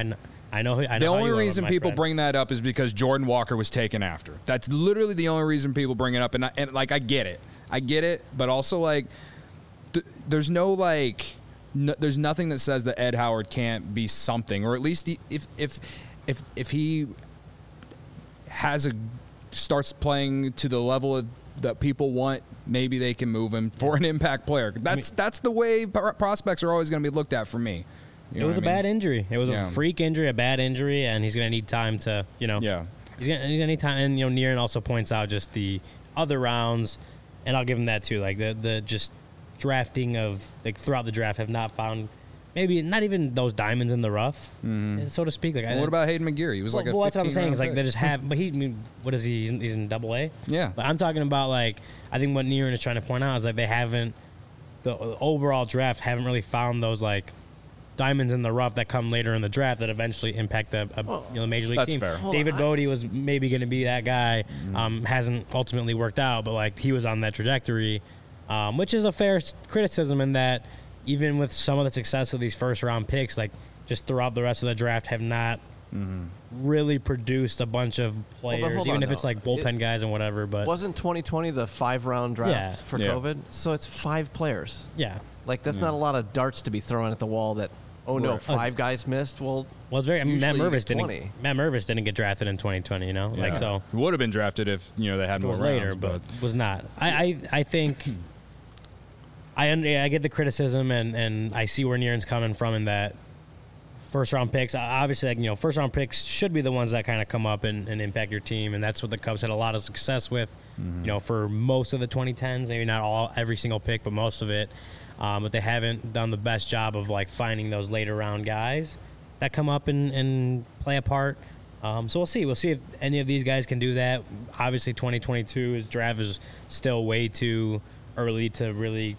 I know. I know the how only you are, reason my people friend. bring that up is because Jordan Walker was taken after. That's literally the only reason people bring it up. And, I, and like, I get it. I get it. But also, like, th- there's no, like, no, there's nothing that says that Ed Howard can't be something. Or at least he, if, if, if, if he has a, starts playing to the level of, that people want, maybe they can move him for an impact player. That's I mean, that's the way prospects are always going to be looked at for me. You it was a I mean? bad injury. It was yeah. a freak injury, a bad injury, and he's going to need time to, you know. Yeah. He's going to need time. And, you know, Nieren also points out just the other rounds, and I'll give him that too. Like, the, the just drafting of, like, throughout the draft have not found maybe not even those diamonds in the rough, mm-hmm. so to speak. Like, well, what about Hayden McGeary? He was well, like a well, that's what I'm saying. It's like pick. they just have, but he, I mean, what is he? He's in, he's in double A? Yeah. But I'm talking about, like, I think what Nieren is trying to point out is like they haven't, the overall draft haven't really found those, like, diamonds in the rough that come later in the draft that eventually impact a, a well, you know, major league that's team. Fair. David Bodie was maybe going to be that guy. Mm. Um, hasn't ultimately worked out, but, like, he was on that trajectory, um, which is a fair criticism in that even with some of the success of these first round picks, like, just throughout the rest of the draft have not mm-hmm. really produced a bunch of players, well, even on, if though. it's like bullpen it, guys and whatever. But wasn't twenty twenty the five round draft yeah. for yeah. COVID? So it's five players. Yeah. Like, that's yeah. not a lot of darts to be thrown at the wall that, oh, no, right. five uh, guys missed. Well, well, it's very. I mean, Matt Mervis didn't. twenty. Matt Mervis didn't get drafted in twenty twenty. You know, yeah. like so. Would have been drafted if you know they had more was rounds, later, but, but was not. I I, I think. I I get the criticism, and, and I see where Nieren's coming from in that first round picks. Obviously, like, you know, first round picks should be the ones that kind of come up and, and impact your team, and that's what the Cubs had a lot of success with. Mm-hmm. You know, for most of the twenty tens, maybe not all every single pick, but most of it. Um, but they haven't done the best job of, like, finding those later round guys that come up and, and play a part. Um, so we'll see. We'll see if any of these guys can do that. Obviously, twenty twenty-two is draft is still way too early to really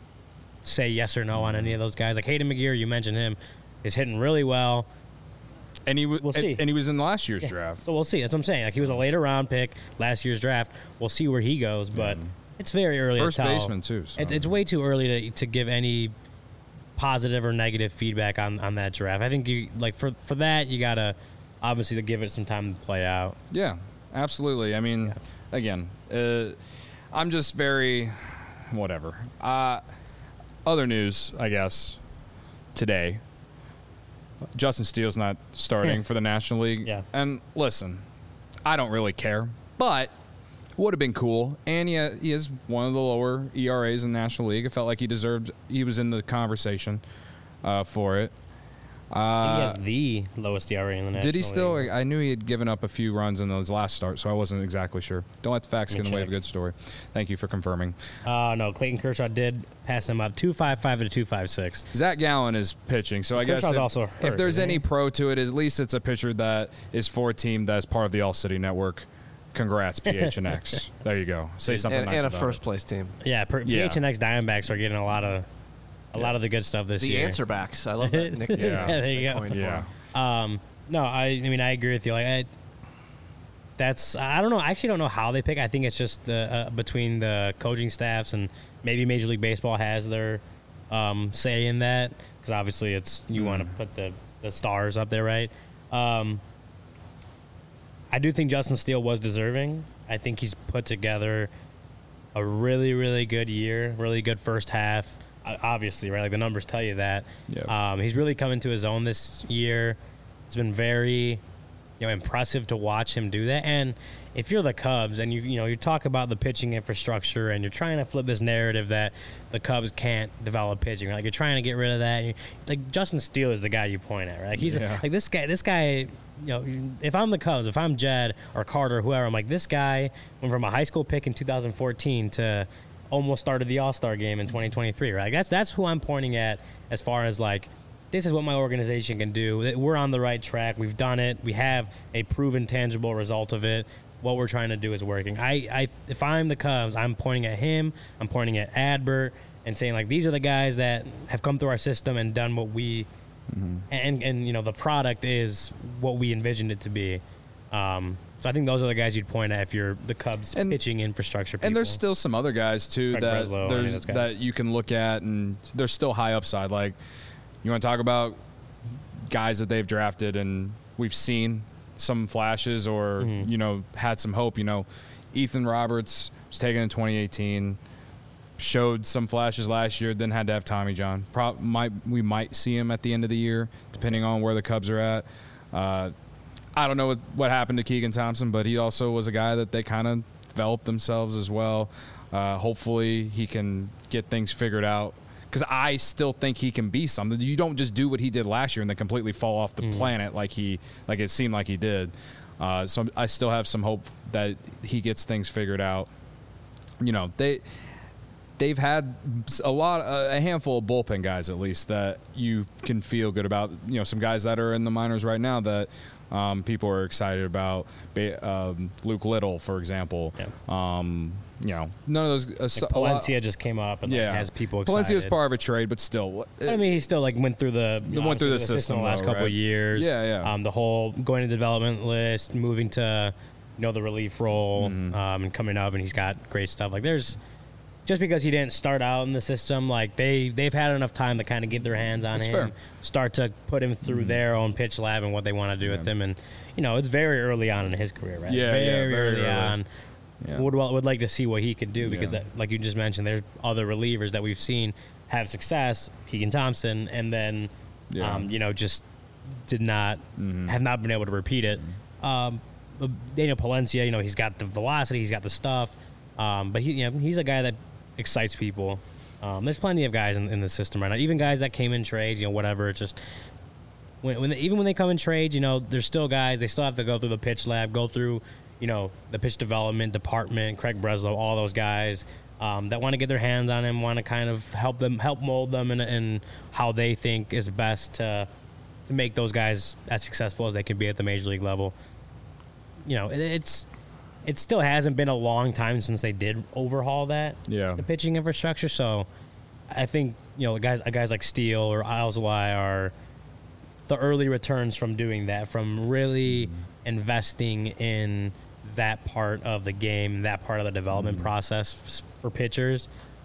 say yes or no on any of those guys. Like Hayden McGeary, you mentioned him, is hitting really well. And he w- we'll see. And, and he was in last year's yeah. draft. So we'll see. That's what I'm saying. Like, he was a later round pick last year's draft. We'll see where he goes, but mm. it's very early First to tell. baseman too. So. It's it's way too early to to give any positive or negative feedback on, on that draft. I think you like for for that you gotta obviously to give it some time to play out. Yeah, absolutely. I mean, yeah. again, uh, I'm just very whatever. Uh, other news, I guess, today. Justin Steele's not starting for the National League. Yeah. And listen, I don't really care, but would have been cool. And he, he is one of the lower E R As in the National League. It felt like he deserved, he was in the conversation uh, for it. Uh, he has the lowest E R A in the National League. Did he still? League. I knew he had given up a few runs in his last start, so I wasn't exactly sure. Don't let the facts get in the way of a good story. Thank you for confirming. Uh, no, Clayton Kershaw did pass him up two five five to two five six. Zach Gallen is pitching, so I Kershaw's guess if, also hurt, if there's any he? pro to it, at least it's a pitcher that is for a team that's part of the All City Network. Congrats, P H N X. There you go. Say something and, nice and a about first it. place team. Yeah, per, yeah, P H N X Diamondbacks are getting a lot of a yeah. lot of the good stuff this the year. The answer backs. I love that nickname. yeah. yeah, there you go. Yeah. Um, no, I, I mean I agree with you. Like, I, that's I don't know. I actually don't know how they pick. I think it's just the uh, between the coaching staffs and maybe Major League Baseball has their um, say in that, because obviously it's you mm. want to put the the stars up there, right? Um, I do think Justin Steele was deserving. I think he's put together a really, really good year, really good first half. Obviously, right? Like, the numbers tell you that. Yep. Um, he's really come into his own this year. It's been very, you know, impressive to watch him do that. And if you're the Cubs and you, you know, you talk about the pitching infrastructure and you're trying to flip this narrative that the Cubs can't develop pitching, right? Like, you're trying to get rid of that. And like, Justin Steele is the guy you point at, right? Like, he's yeah. like this guy. This guy. You know, if I'm the Cubs, if I'm Jed or Carter or whoever, I'm like, this guy went from a high school pick in two thousand fourteen to almost started the All-Star game in twenty twenty-three, right? That's that's who I'm pointing at as far as, like, this is what my organization can do. We're on the right track. We've done it. We have a proven, tangible result of it. What we're trying to do is working. I, I if I'm the Cubs, I'm pointing at him. I'm pointing at Adbert and saying, like, these are the guys that have come through our system and done what we mm-hmm. and and you know the product is what we envisioned it to be. Um, so I think those are the guys you'd point at if you're the Cubs and, pitching infrastructure people. And there's still some other guys too Craig that Breslow, there's guys. that you can look at, and they're still high upside. Like, you want to talk about guys that they've drafted and we've seen some flashes or, mm-hmm. you know, had some hope. You know, Ethan Roberts was taken in twenty eighteen, showed some flashes last year, then had to have Tommy John. Pro- might We might see him at the end of the year, depending on where the Cubs are at. Uh, I don't know what, what happened to Keegan Thompson, but he also was a guy that they kind of developed themselves as well. Uh, hopefully he can get things figured out, because I still think he can be something. You don't just do what he did last year and then completely fall off the mm. planet like he like it seemed like he did. Uh, so I still have some hope that he gets things figured out. You know, they they've had a lot, a handful of bullpen guys at least that you can feel good about. You know, some guys that are in the minors right now that um, people are excited about. Um, Luke Little, for example. Yeah. Um, you know, none of those. Uh, like Palencia lot, just came up and like, yeah. has people excited. Palencia was part of a trade, but still. It, I mean, he still like went through the you know, went through the, the system, system the last though, couple right? of years. Yeah, yeah. Um, the whole going to the development list, moving to you know the relief role, mm-hmm. um, and coming up, and he's got great stuff. Like there's just because he didn't start out in the system, like they they've had enough time to kind of get their hands on That's him, fair. start to put him through mm-hmm. their own pitch lab and what they want to do yeah. with him, and you know it's very early on in his career, right? Yeah, very, yeah, very early, early on. Yeah. Would would like to see what he could do because, yeah. that, like you just mentioned, there's other relievers that we've seen have success. Keegan Thompson, and then, yeah. um, you know, just did not mm-hmm. have not been able to repeat it. Um, Daniel Palencia, you know, he's got the velocity, he's got the stuff, um, but he, you know, he's a guy that excites people. Um, there's plenty of guys in, in the system right now, even guys that came in trades, you know, whatever. It's just when, when they, even when they come in trades, you know, there's still guys. They still have to go through the pitch lab, go through. You know, the pitch development department, Craig Breslow, all those guys um, that want to get their hands on him, want to kind of help them, help mold them in, in how they think is best to to make those guys as successful as they can be at the major league level. You know, it, it's it still hasn't been a long time since they did overhaul that, yeah. the pitching infrastructure. So I think, you know, guys guys like Steele or Alzolay are the early returns from doing that, from really mm-hmm. investing in that part of the game, that part of the development mm-hmm. process f- for pitchers.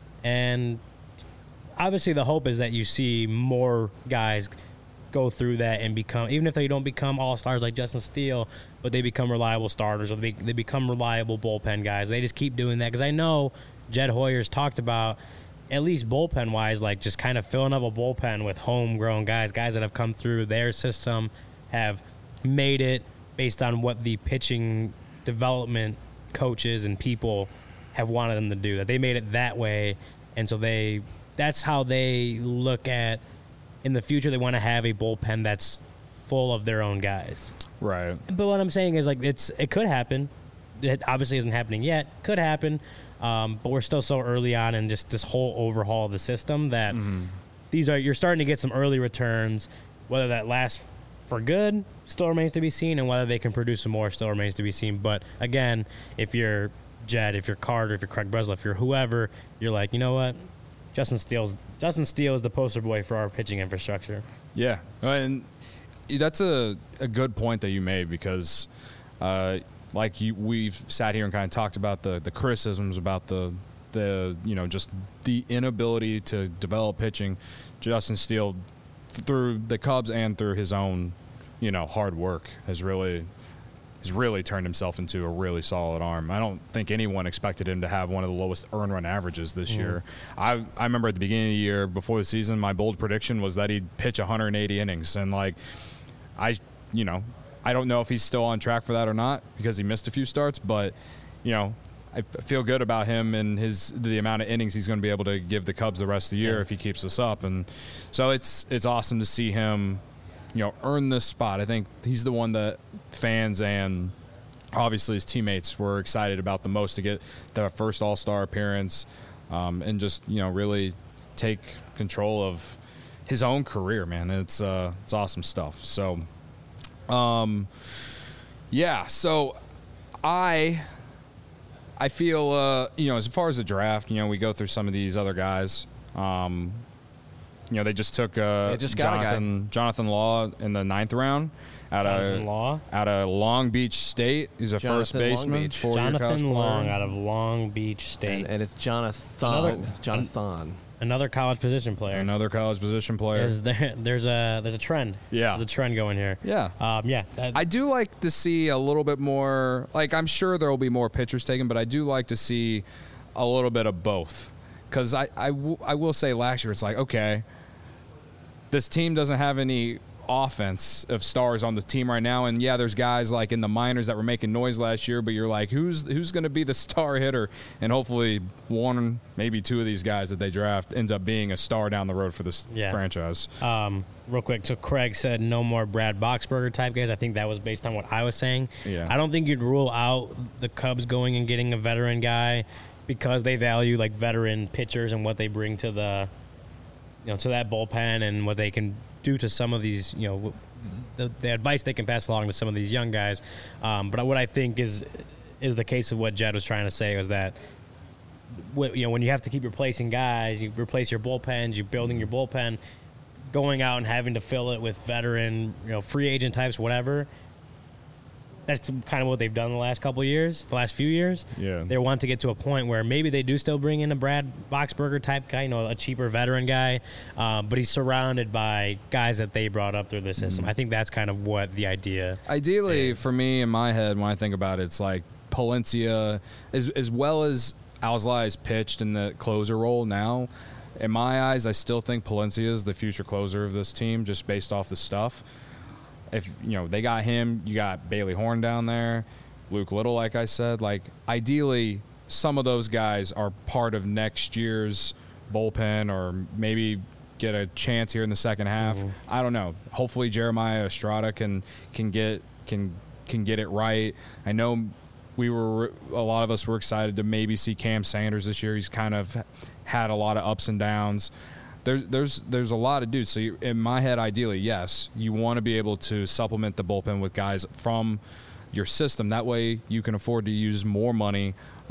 And obviously the hope is that you see more guys go through that and become, even if they don't become all-stars like Justin Steele, but they become reliable starters or they, they become reliable bullpen guys. They just keep doing that because I know Jed Hoyer's talked about, at least bullpen-wise, like just kind of filling up a bullpen with homegrown guys, guys that have come through their system, have made it based on what the pitching development coaches and people have wanted them to do, that they made it that way. And so they that's how they look at in the future. They want to have a bullpen that's full of their own guys. Right. But what I'm saying is like it's it could happen. It obviously isn't happening yet. Could happen. Um, but we're still so early on in just this whole overhaul of the system that mm-hmm. these are you're starting to get some early returns. Whether that lasts for good still remains to be seen, and whether they can produce some more still remains to be seen. But again, if you're Jed, if you're Carter, if you're Craig Breslow, if you're whoever, you're like, you know what, Justin Steele's Justin Steele is the poster boy for our pitching infrastructure. Yeah, and that's a a good point that you made because, uh, like you, we've sat here and kind of talked about the the criticisms about the the you know just the inability to develop pitching. Justin Steele, through the Cubs and through his own, you know, hard work, has really has really turned himself into a really solid arm. I don't think anyone expected him to have one of the lowest earn run averages this mm. year. I I remember at the beginning of the year, before the season, my bold prediction was that he'd pitch one hundred eighty innings, and like, I you know, I don't know if he's still on track for that or not because he missed a few starts, but you know, I feel good about him and his the amount of innings he's going to be able to give the Cubs the rest of the year yeah. if he keeps this up. And so it's it's awesome to see him, you know, earn this spot. I think he's the one that fans and obviously his teammates were excited about the most to get the first All-Star appearance um, and just, you know, really take control of his own career, man. It's uh, it's awesome stuff. So, um, yeah. So I. I feel, uh, you know, as far as the draft, you know, we go through some of these other guys. Um, you know, they just took uh, they just got Jonathan Jonathan Law in the ninth round out Jonathan of Law? out of Long Beach State. He's a Jonathan first baseman. Beach. Jonathan Long out of Long Beach State, and, and it's Jonathan Another, Jonathan Another college position player. Another college position player. There's, there, there's a there's a trend. Yeah. There's a trend going here. Yeah. Um, yeah. That, I do like to see a little bit more. Like, I'm sure there will be more pitchers taken, but I do like to see a little bit of both. Because I, I, w- I will say last year, it's like, okay, this team doesn't have any offense of stars on the team right now, and yeah, there's guys like in the minors that were making noise last year, but you're like, who's who's going to be the star hitter? And hopefully one, maybe two of these guys that they draft ends up being a star down the road for this Yeah. franchise. Um, real quick, so Craig said no more Brad Boxberger type guys. I think that was based on what I was saying. Yeah. I don't think you'd rule out the Cubs going and getting a veteran guy because they value like veteran pitchers and what they bring to the, you know, to that bullpen and what they can do to some of these, you know, the, the advice they can pass along to some of these young guys. Um, but what I think is is the case of what Jed was trying to say was that, you know, when you have to keep replacing guys, you replace your bullpens, you're building your bullpen, going out and having to fill it with veteran, you know, free agent types, whatever. That's kind of what they've done the last couple of years, the last few years. Yeah. They want to get to a point where maybe they do still bring in a Brad Boxberger type guy, you know, a cheaper veteran guy, um, but he's surrounded by guys that they brought up through the system. Mm-hmm. I think that's kind of what the idea Ideally, is. for me, in my head, when I think about it, it's like Palencia, as as well as Alzolay is pitched in the closer role now. In my eyes, I still think Palencia is the future closer of this team, just based off the stuff. If you know they got him, you got Bailey Horn down there, Luke Little, like I said. Like ideally, some of those guys are part of next year's bullpen, or maybe get a chance here in the second half. Mm-hmm. I don't know. Hopefully, Jeremiah Estrada can can get can can get it right. I know we were a lot of us were excited to maybe see Cam Sanders this year. He's kind of had a lot of ups and downs. There's there's there's a lot of dudes. So you, in my head, ideally, yes, you want to be able to supplement the bullpen with guys from your system. That way, you can afford to use more money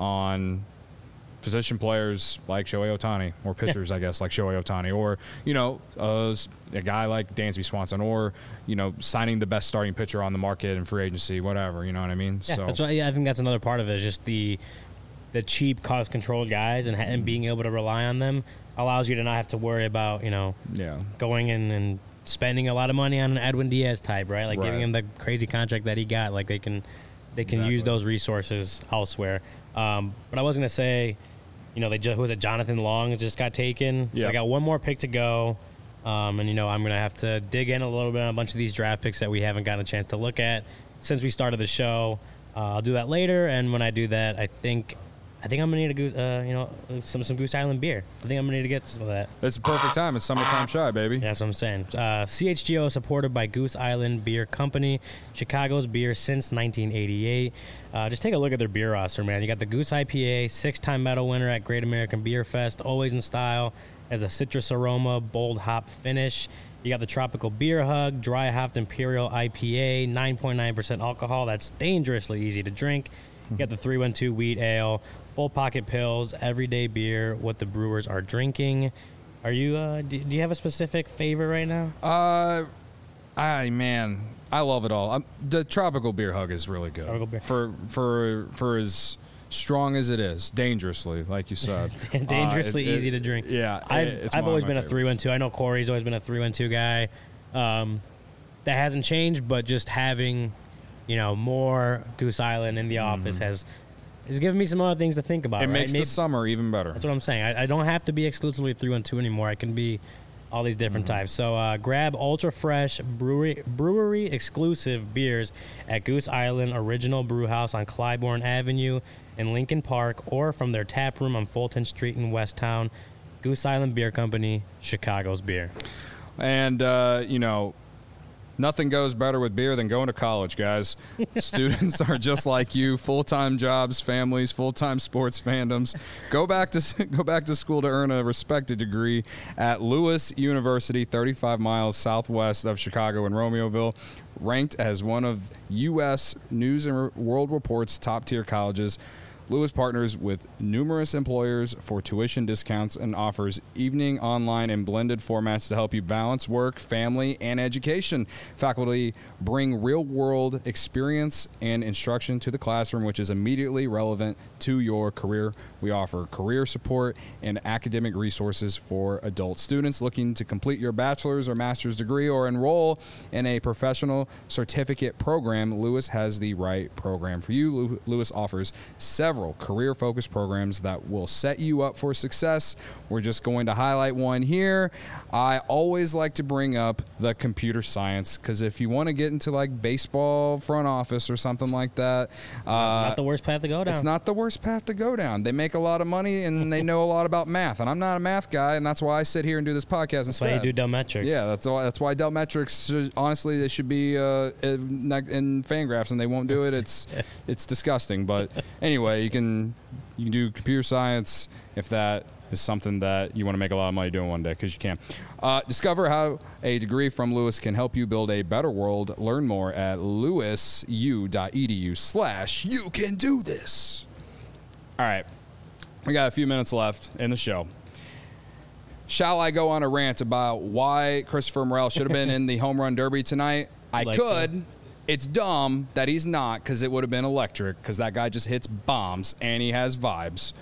on position players like Shohei Ohtani, or pitchers, yeah. I guess, like Shohei Ohtani, or you know, uh, a guy like Dansby Swanson, or you know, signing the best starting pitcher on the market in free agency, whatever. You know what I mean? Yeah, so that's right. Yeah, I think that's another part of it. Is just the the cheap, cost-controlled guys, and, and being able to rely on them allows you to not have to worry about, you know, yeah. going in and spending a lot of money on an Edwin Diaz type, right? Like right. giving him the crazy contract that he got. Like they can, they can exactly. use those resources elsewhere. Um, but I was gonna say, you know, they just, who was it? Jonathan Long has just got taken. Yeah. So I got one more pick to go. Um, and you know, I'm gonna have to dig in a little bit on a bunch of these draft picks that we haven't gotten a chance to look at since we started the show. Uh, I'll do that later, and when I do that, I think. I think I'm gonna need a goose, uh, you know, some some Goose Island beer. I think I'm gonna need to get some of that. It's the perfect time. It's summertime shy, baby. That's what I'm saying. Uh, C H G O is supported by Goose Island Beer Company, Chicago's beer since nineteen eighty-eight. Uh, just take a look at their beer roster, man. You got the Goose I P A, six-time medal winner at Great American Beer Fest, always in style, has a citrus aroma, bold hop finish. You got the Tropical Beer Hug, dry hopped Imperial I P A, nine point nine percent alcohol. That's dangerously easy to drink. You got the three one two Wheat Ale, Full Pocket Pills, everyday beer, what the brewers are drinking. Are you, uh, do, do you have a specific favorite right now? Uh, I, man, I love it all. I'm, the Tropical Beer Hug is really good. Tropical beer. For, for, for as strong as it is, dangerously, like you said. dangerously uh, it, easy it, to drink. Yeah. I've, it, it's I've one always of been my a three one two. I know Corey's always been a three one two guy. Um, that hasn't changed, but just having, you know, more Goose Island in the mm-hmm. office has is giving me some other things to think about. It right? makes Maybe, the summer even better. That's what I'm saying. I, I don't have to be exclusively three one two anymore. I can be all these different Mm-hmm. types. So uh, grab ultra fresh brewery brewery exclusive beers at Goose Island Original Brew House on Clybourne Avenue in Lincoln Park, or from their tap room on Fulton Street in Westtown. Goose Island Beer Company, Chicago's beer. And, uh, you know, nothing goes better with beer than going to college, guys. Students are just like you, full-time jobs, families, full-time sports fandoms. Go back to go back to school to earn a respected degree at Lewis University, thirty-five miles southwest of Chicago in Romeoville, ranked as one of U S News and World Report's top-tier colleges. Lewis partners with numerous employers for tuition discounts and offers evening, online, and blended formats to help you balance work, family, and education. Faculty bring real-world experience and instruction to the classroom, which is immediately relevant to your career. We offer career support and academic resources for adult students looking to complete your bachelor's or master's degree or enroll in a professional certificate program. Lewis has the right program for you. Lewis offers several career-focused programs that will set you up for success. We're just going to highlight one here. I always like to bring up the computer science, because if you want to get into like baseball front office or something like that, uh, not the worst path to go down. It's not the worst path to go down. They make a lot of money and they know a lot about math, and I'm not a math guy, and that's why I sit here and do this podcast that's instead. That's why you do Delmetrics. Yeah, that's why. That's why Delmetrics. Should, honestly, they should be uh, in, in Fangraphs, and they won't do it. It's it's disgusting. But anyway, you can you can do computer science if that is something that you want to make a lot of money doing one day, because you can. Uh, discover how a degree from Lewis can help you build a better world. Learn more at lewisu.edu slash you can do this. All right. We got a few minutes left in the show. Shall I go on a rant about why Christopher Morel should have been in the home run derby tonight? I like could. to. It's dumb that he's not, because it would have been electric, because that guy just hits bombs and he has vibes.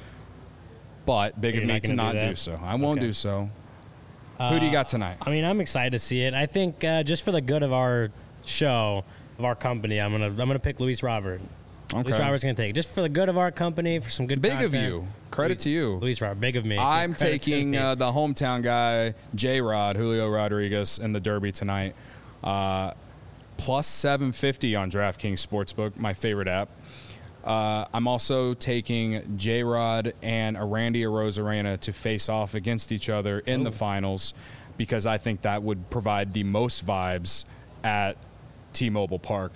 But big You're of me not to gonna not do do, that? so. I won't Okay. do so. Who do you got tonight? I mean, I'm excited to see it. I think uh, just for the good of our show, of our company, I'm gonna I'm gonna pick Luis Robert. Okay. Luis Robert's gonna take it. Just for the good of our company, for some good Big content. of you. Credit Luis, to you. Luis Robert. Big of me. I'm Credit to taking me. uh, the hometown guy, J-Rod, Julio Rodriguez, in the Derby tonight. Uh, plus seven fifty on DraftKings Sportsbook, my favorite app. Uh, I'm also taking J-Rod and Randy Arozarena to face off against each other in Ooh. the finals, because I think that would provide the most vibes at T-Mobile Park.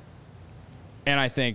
And I think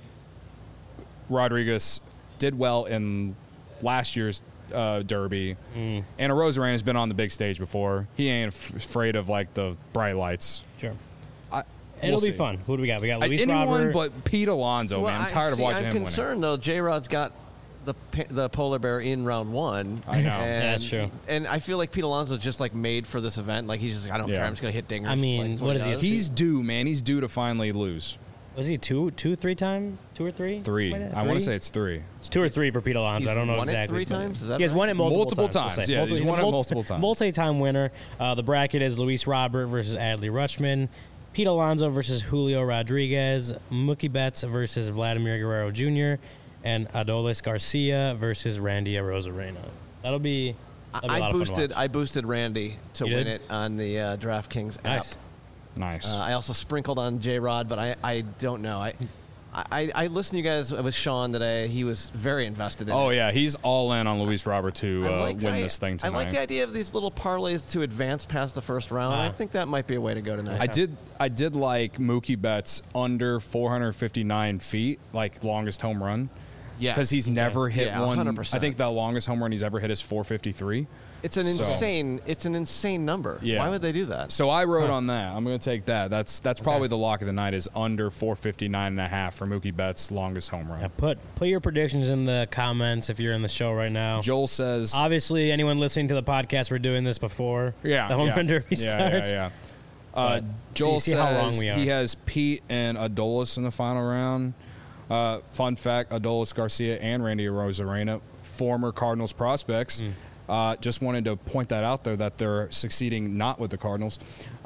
Rodriguez did well in last year's uh, Derby. Mm. And Arozarena has been on the big stage before. He ain't f- afraid of like the bright lights. Sure. I, It'll we'll be see. fun. Who do we got? We got Uh, Luis anyone Robert. but Pete Alonso, Well, man. I'm I- tired of see, watching I'm him concerned though. J Rod's got the pa- the polar bear in round one. I know. And, Yeah, that's true. And I feel like Pete Alonso's just like made for this event. Like he's just like, I don't Yeah. care. I'm just gonna hit dingers. I mean, Like, that's what is he, does. winning. He's due, man. He's due to finally lose. Was he two, two, three time, two or three? Three. Something like that? I want Three? to say it's three. It's two or three for Pete Alonso. He's I don't know won it exactly. three but- times? Is that he has right? won it multiple, Multiple times. times, we'll say. yeah, he's Multi- won a it multi- multiple times. Multi-time winner. Uh, the bracket is Luis Robert versus Adley Rutschman, Pete Alonso versus Julio Rodriguez, Mookie Betts versus Vladimir Guerrero Junior, and Adolis Garcia versus Randy Arozarena. That'll be. That'll be a lot I of fun to boosted watch. I boosted Randy to You win did? it on the uh, DraftKings app. Nice. Nice. Uh, I also sprinkled on J Rod, but I, I don't know. I, I I listened to you guys with Sean today. He was very invested in oh, it. yeah. He's all in on Luis Robert to I uh, like- win I- this thing tonight. I like the idea of these little parlays to advance past the first round. Ah. I think that might be a way to go tonight. I did I did like Mookie Betts under four hundred fifty-nine feet, like longest home run. Yes. Because he's never hit Yeah, one. one hundred I percent. think the longest home run he's ever hit is four fifty-three. It's an So- insane. It's an insane number. Yeah. Why would they do that? So I wrote on that. I'm going to take that. That's that's probably the lock of the night is under four fifty-nine and a half for Mookie Betts' longest home run. Yeah, put put your predictions in the comments if you're in the show right now. Joel says Obviously, anyone listening to the podcast, we're doing this before Yeah, the home yeah. run derby yeah, starts. Yeah, yeah. Uh, But Joel see- see how wrong says we are. he has Pete and Adolis in the final round. Uh, fun fact: Adolis Garcia and Randy Arozarena, former Cardinals prospects. Mm. Uh, just wanted to point that out there that they're succeeding not with the Cardinals.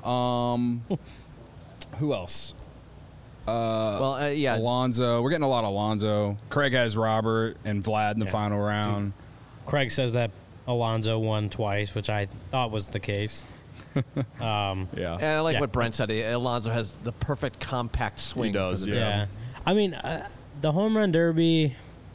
Um, who else? well, uh, yeah. Alonzo. We're getting a lot of Alonzo. Craig has Robert and Vlad in the Yeah. final round. Craig says that Alonso won twice, which I thought was the case. Um, Yeah. And I like Yeah. what Brent said. Alonso has the perfect compact swing. He does, for the yeah. yeah. I mean, uh, the home run derby.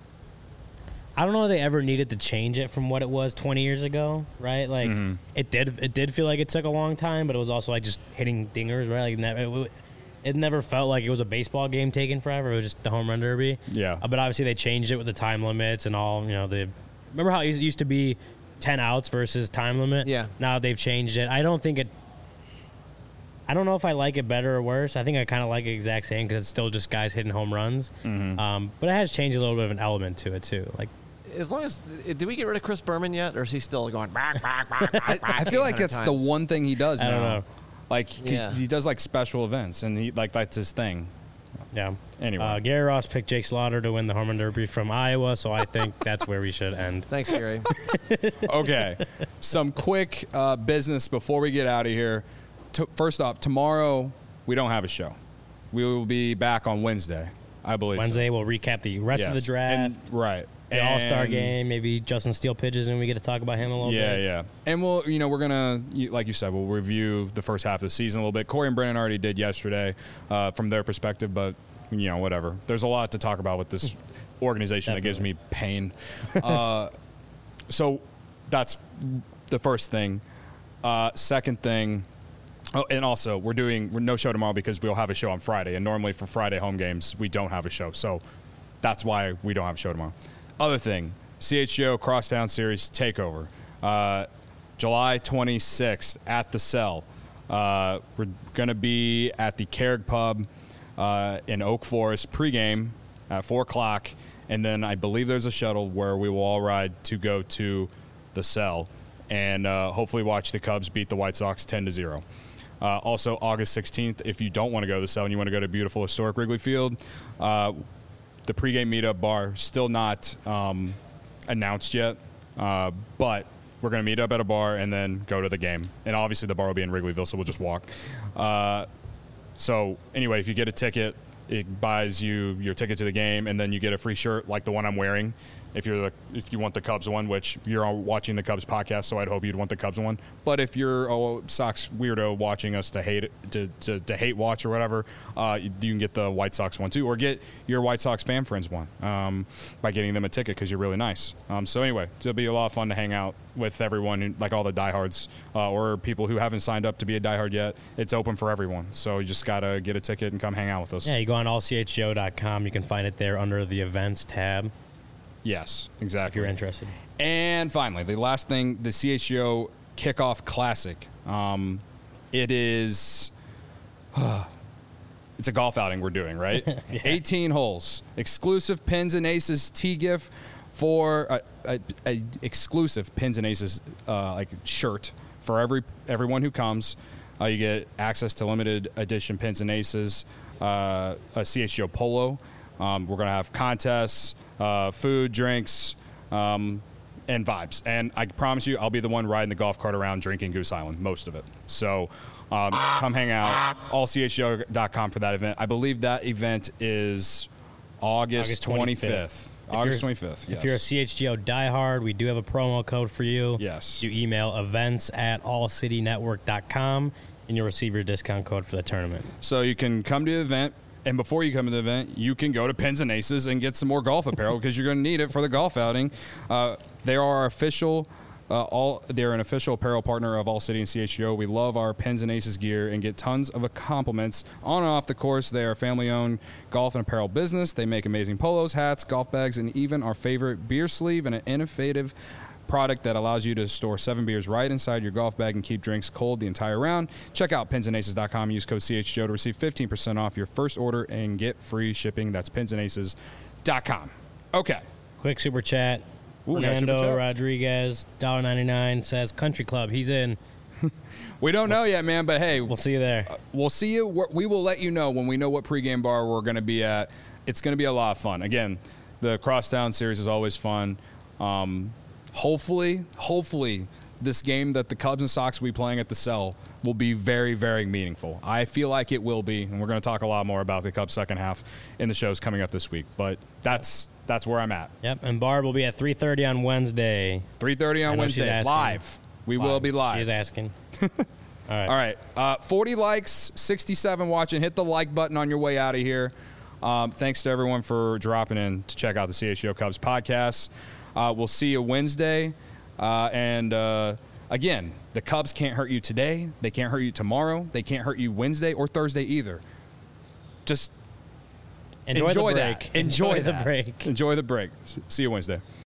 I don't know if they ever needed to change it from what it was twenty years ago, right? Like Mm-hmm. it did. It did feel like it took a long time, but it was also like just hitting dingers, right? Like ne- it, it never felt like it was a baseball game taking forever. It was just the home run derby. Yeah. Uh, but obviously they changed it with the time limits and all. You know, the remember how it used- used to be ten outs versus time limit. Yeah. Now they've changed it. I don't think it. I don't know if I like it better or worse. I think I kind of like it exact same because it's still just guys hitting home runs. Mm-hmm. Um, but it has changed a little bit of an element to it too. Like, as long as did we get rid of Chris Berman yet, or is he still going? Back, back, back, back, I feel like it's times? the one thing he does now. I don't know. Like he, Yeah. he does like special events, and he like that's his thing. yeah. Anyway. uh, Gary Ross picked Jake Slaughter to win the home run derby from Iowa, so I think that's where we should end. Thanks, Gary. Okay, some quick uh, business before we get out of here. T- first off, tomorrow we don't have a show. We will be back on Wednesday, I believe. Wednesday, we'll recap the rest Yes. of the draft, And- right? the All Star And- game. Maybe Justin Steele pitches, and we get to talk about him a little Yeah, bit. yeah. And we'll, you know, we're gonna, you- like you said, we'll review the first half of the season a little bit. Corey and Brennan already did yesterday uh, from their perspective, but you know, whatever. There's a lot to talk about with this organization that gives me pain. Uh, so that's the first thing. Uh, second thing. Oh, and also, we're doing we're no show tomorrow because we'll have a show on Friday. And normally for Friday home games, we don't have a show. So that's why we don't have a show tomorrow. Other thing, C H G O Crosstown Series Takeover. Uh, July twenty-sixth at the Cell. Uh, we're going to be at the Carrick Pub uh, in Oak Forest pregame at four o'clock. And then I believe there's a shuttle where we will all ride to go to the Cell and uh, hopefully watch the Cubs beat the White Sox ten to zero. Uh, also, August sixteenth, if you don't want to go to the Cell and you want to go to beautiful historic Wrigley Field, uh, the pregame meetup bar still not um, announced yet, uh, but we're going to meet up at a bar and then go to the game. And obviously the bar will be in Wrigleyville, so we'll just walk. Uh, so anyway, if you get a ticket, it buys you your ticket to the game, and then you get a free shirt like the one I'm wearing. If you're the, if you want the Cubs one, which you're all watching the Cubs podcast, so I'd hope you'd want the Cubs one. But if you're a Sox weirdo watching us to hate to, to, to hate watch or whatever, uh, you, you can get the White Sox one too, or get your White Sox fan friends one um, by getting them a ticket because you're really nice. Um, so anyway, it'll be a lot of fun to hang out with everyone, like all the diehards uh, or people who haven't signed up to be a diehard yet. It's open for everyone, so you just gotta get a ticket and come hang out with us. Yeah, you go on all c h g o dot com. You can find it there under the events tab Yes, exactly. if you're interested. And finally, the last thing, the C H G O Kickoff Classic. Um, it is, it's a golf outing we're doing, right? Yeah. eighteen holes, exclusive Pins and Aces T-gift for a, a, a exclusive Pins and Aces uh, like shirt for every everyone who comes. Uh, you get access to limited edition Pins and Aces, uh, a C H G O polo. Um, we're gonna have contests, uh, food, drinks, um, and vibes. And I promise you, I'll be the one riding the golf cart around drinking Goose Island, most of it. So um, come hang out. all c h g o dot com for that event. I believe that event is August, August twenty-fifth. twenty-fifth. August If you're- twenty-fifth. If you're a C H G O diehard, we do have a promo code for you. Yes. You email events at all city network dot com, and you'll receive your discount code for the tournament. So you can come to the event, and before you come to the event, you can go to Pins and Aces and get some more golf apparel because you're going to need it for the golf outing. Uh, they are our official, uh, all they're an official apparel partner of All City and C H G O. We love our Pins and Aces gear and get tons of compliments on and off the course. They are a family-owned golf and apparel business. They make amazing polos, hats, golf bags, and even our favorite beer sleeve and an innovative product that allows you to store seven beers right inside your golf bag and keep drinks cold the entire round. Check out pins and aces dot com. Use code C H G O to receive fifteen percent off your first order and get free shipping. That's pins and aces dot com. Okay. Quick super chat. Ooh, we got a super Fernando chat. Rodriguez, one dollar ninety-nine, says Country Club. He's in. We don't know yet, man, but hey, We'll see you there. we'll see you. We're- We will let you know when we know what pregame bar we're going to be at. It's going to be a lot of fun. Again, the Crosstown series is always fun. Um, hopefully, hopefully, this game that the Cubs and Sox will be playing at the Cell will be very, very meaningful. I feel like it will be, and we're going to talk a lot more about the Cubs second half in the shows coming up this week. But that's that's where I'm at. Yep, and Barb will be at three thirty on Wednesday. three thirty I on know she's Wednesday, asking. live. We will be live. She's asking. All right. All right. Uh, forty likes, sixty-seven watching. Hit the like button on your way out of here. Um, thanks to everyone for dropping in to check out the C H G O Cubs podcast. Uh, we'll see you Wednesday. Uh, and uh, again, the Cubs can't hurt you today. They can't hurt you tomorrow. They can't hurt you Wednesday or Thursday either. Just Enjoy, enjoy, the break. that. Enjoy, Enjoy the that. break. Enjoy the break. See you Wednesday.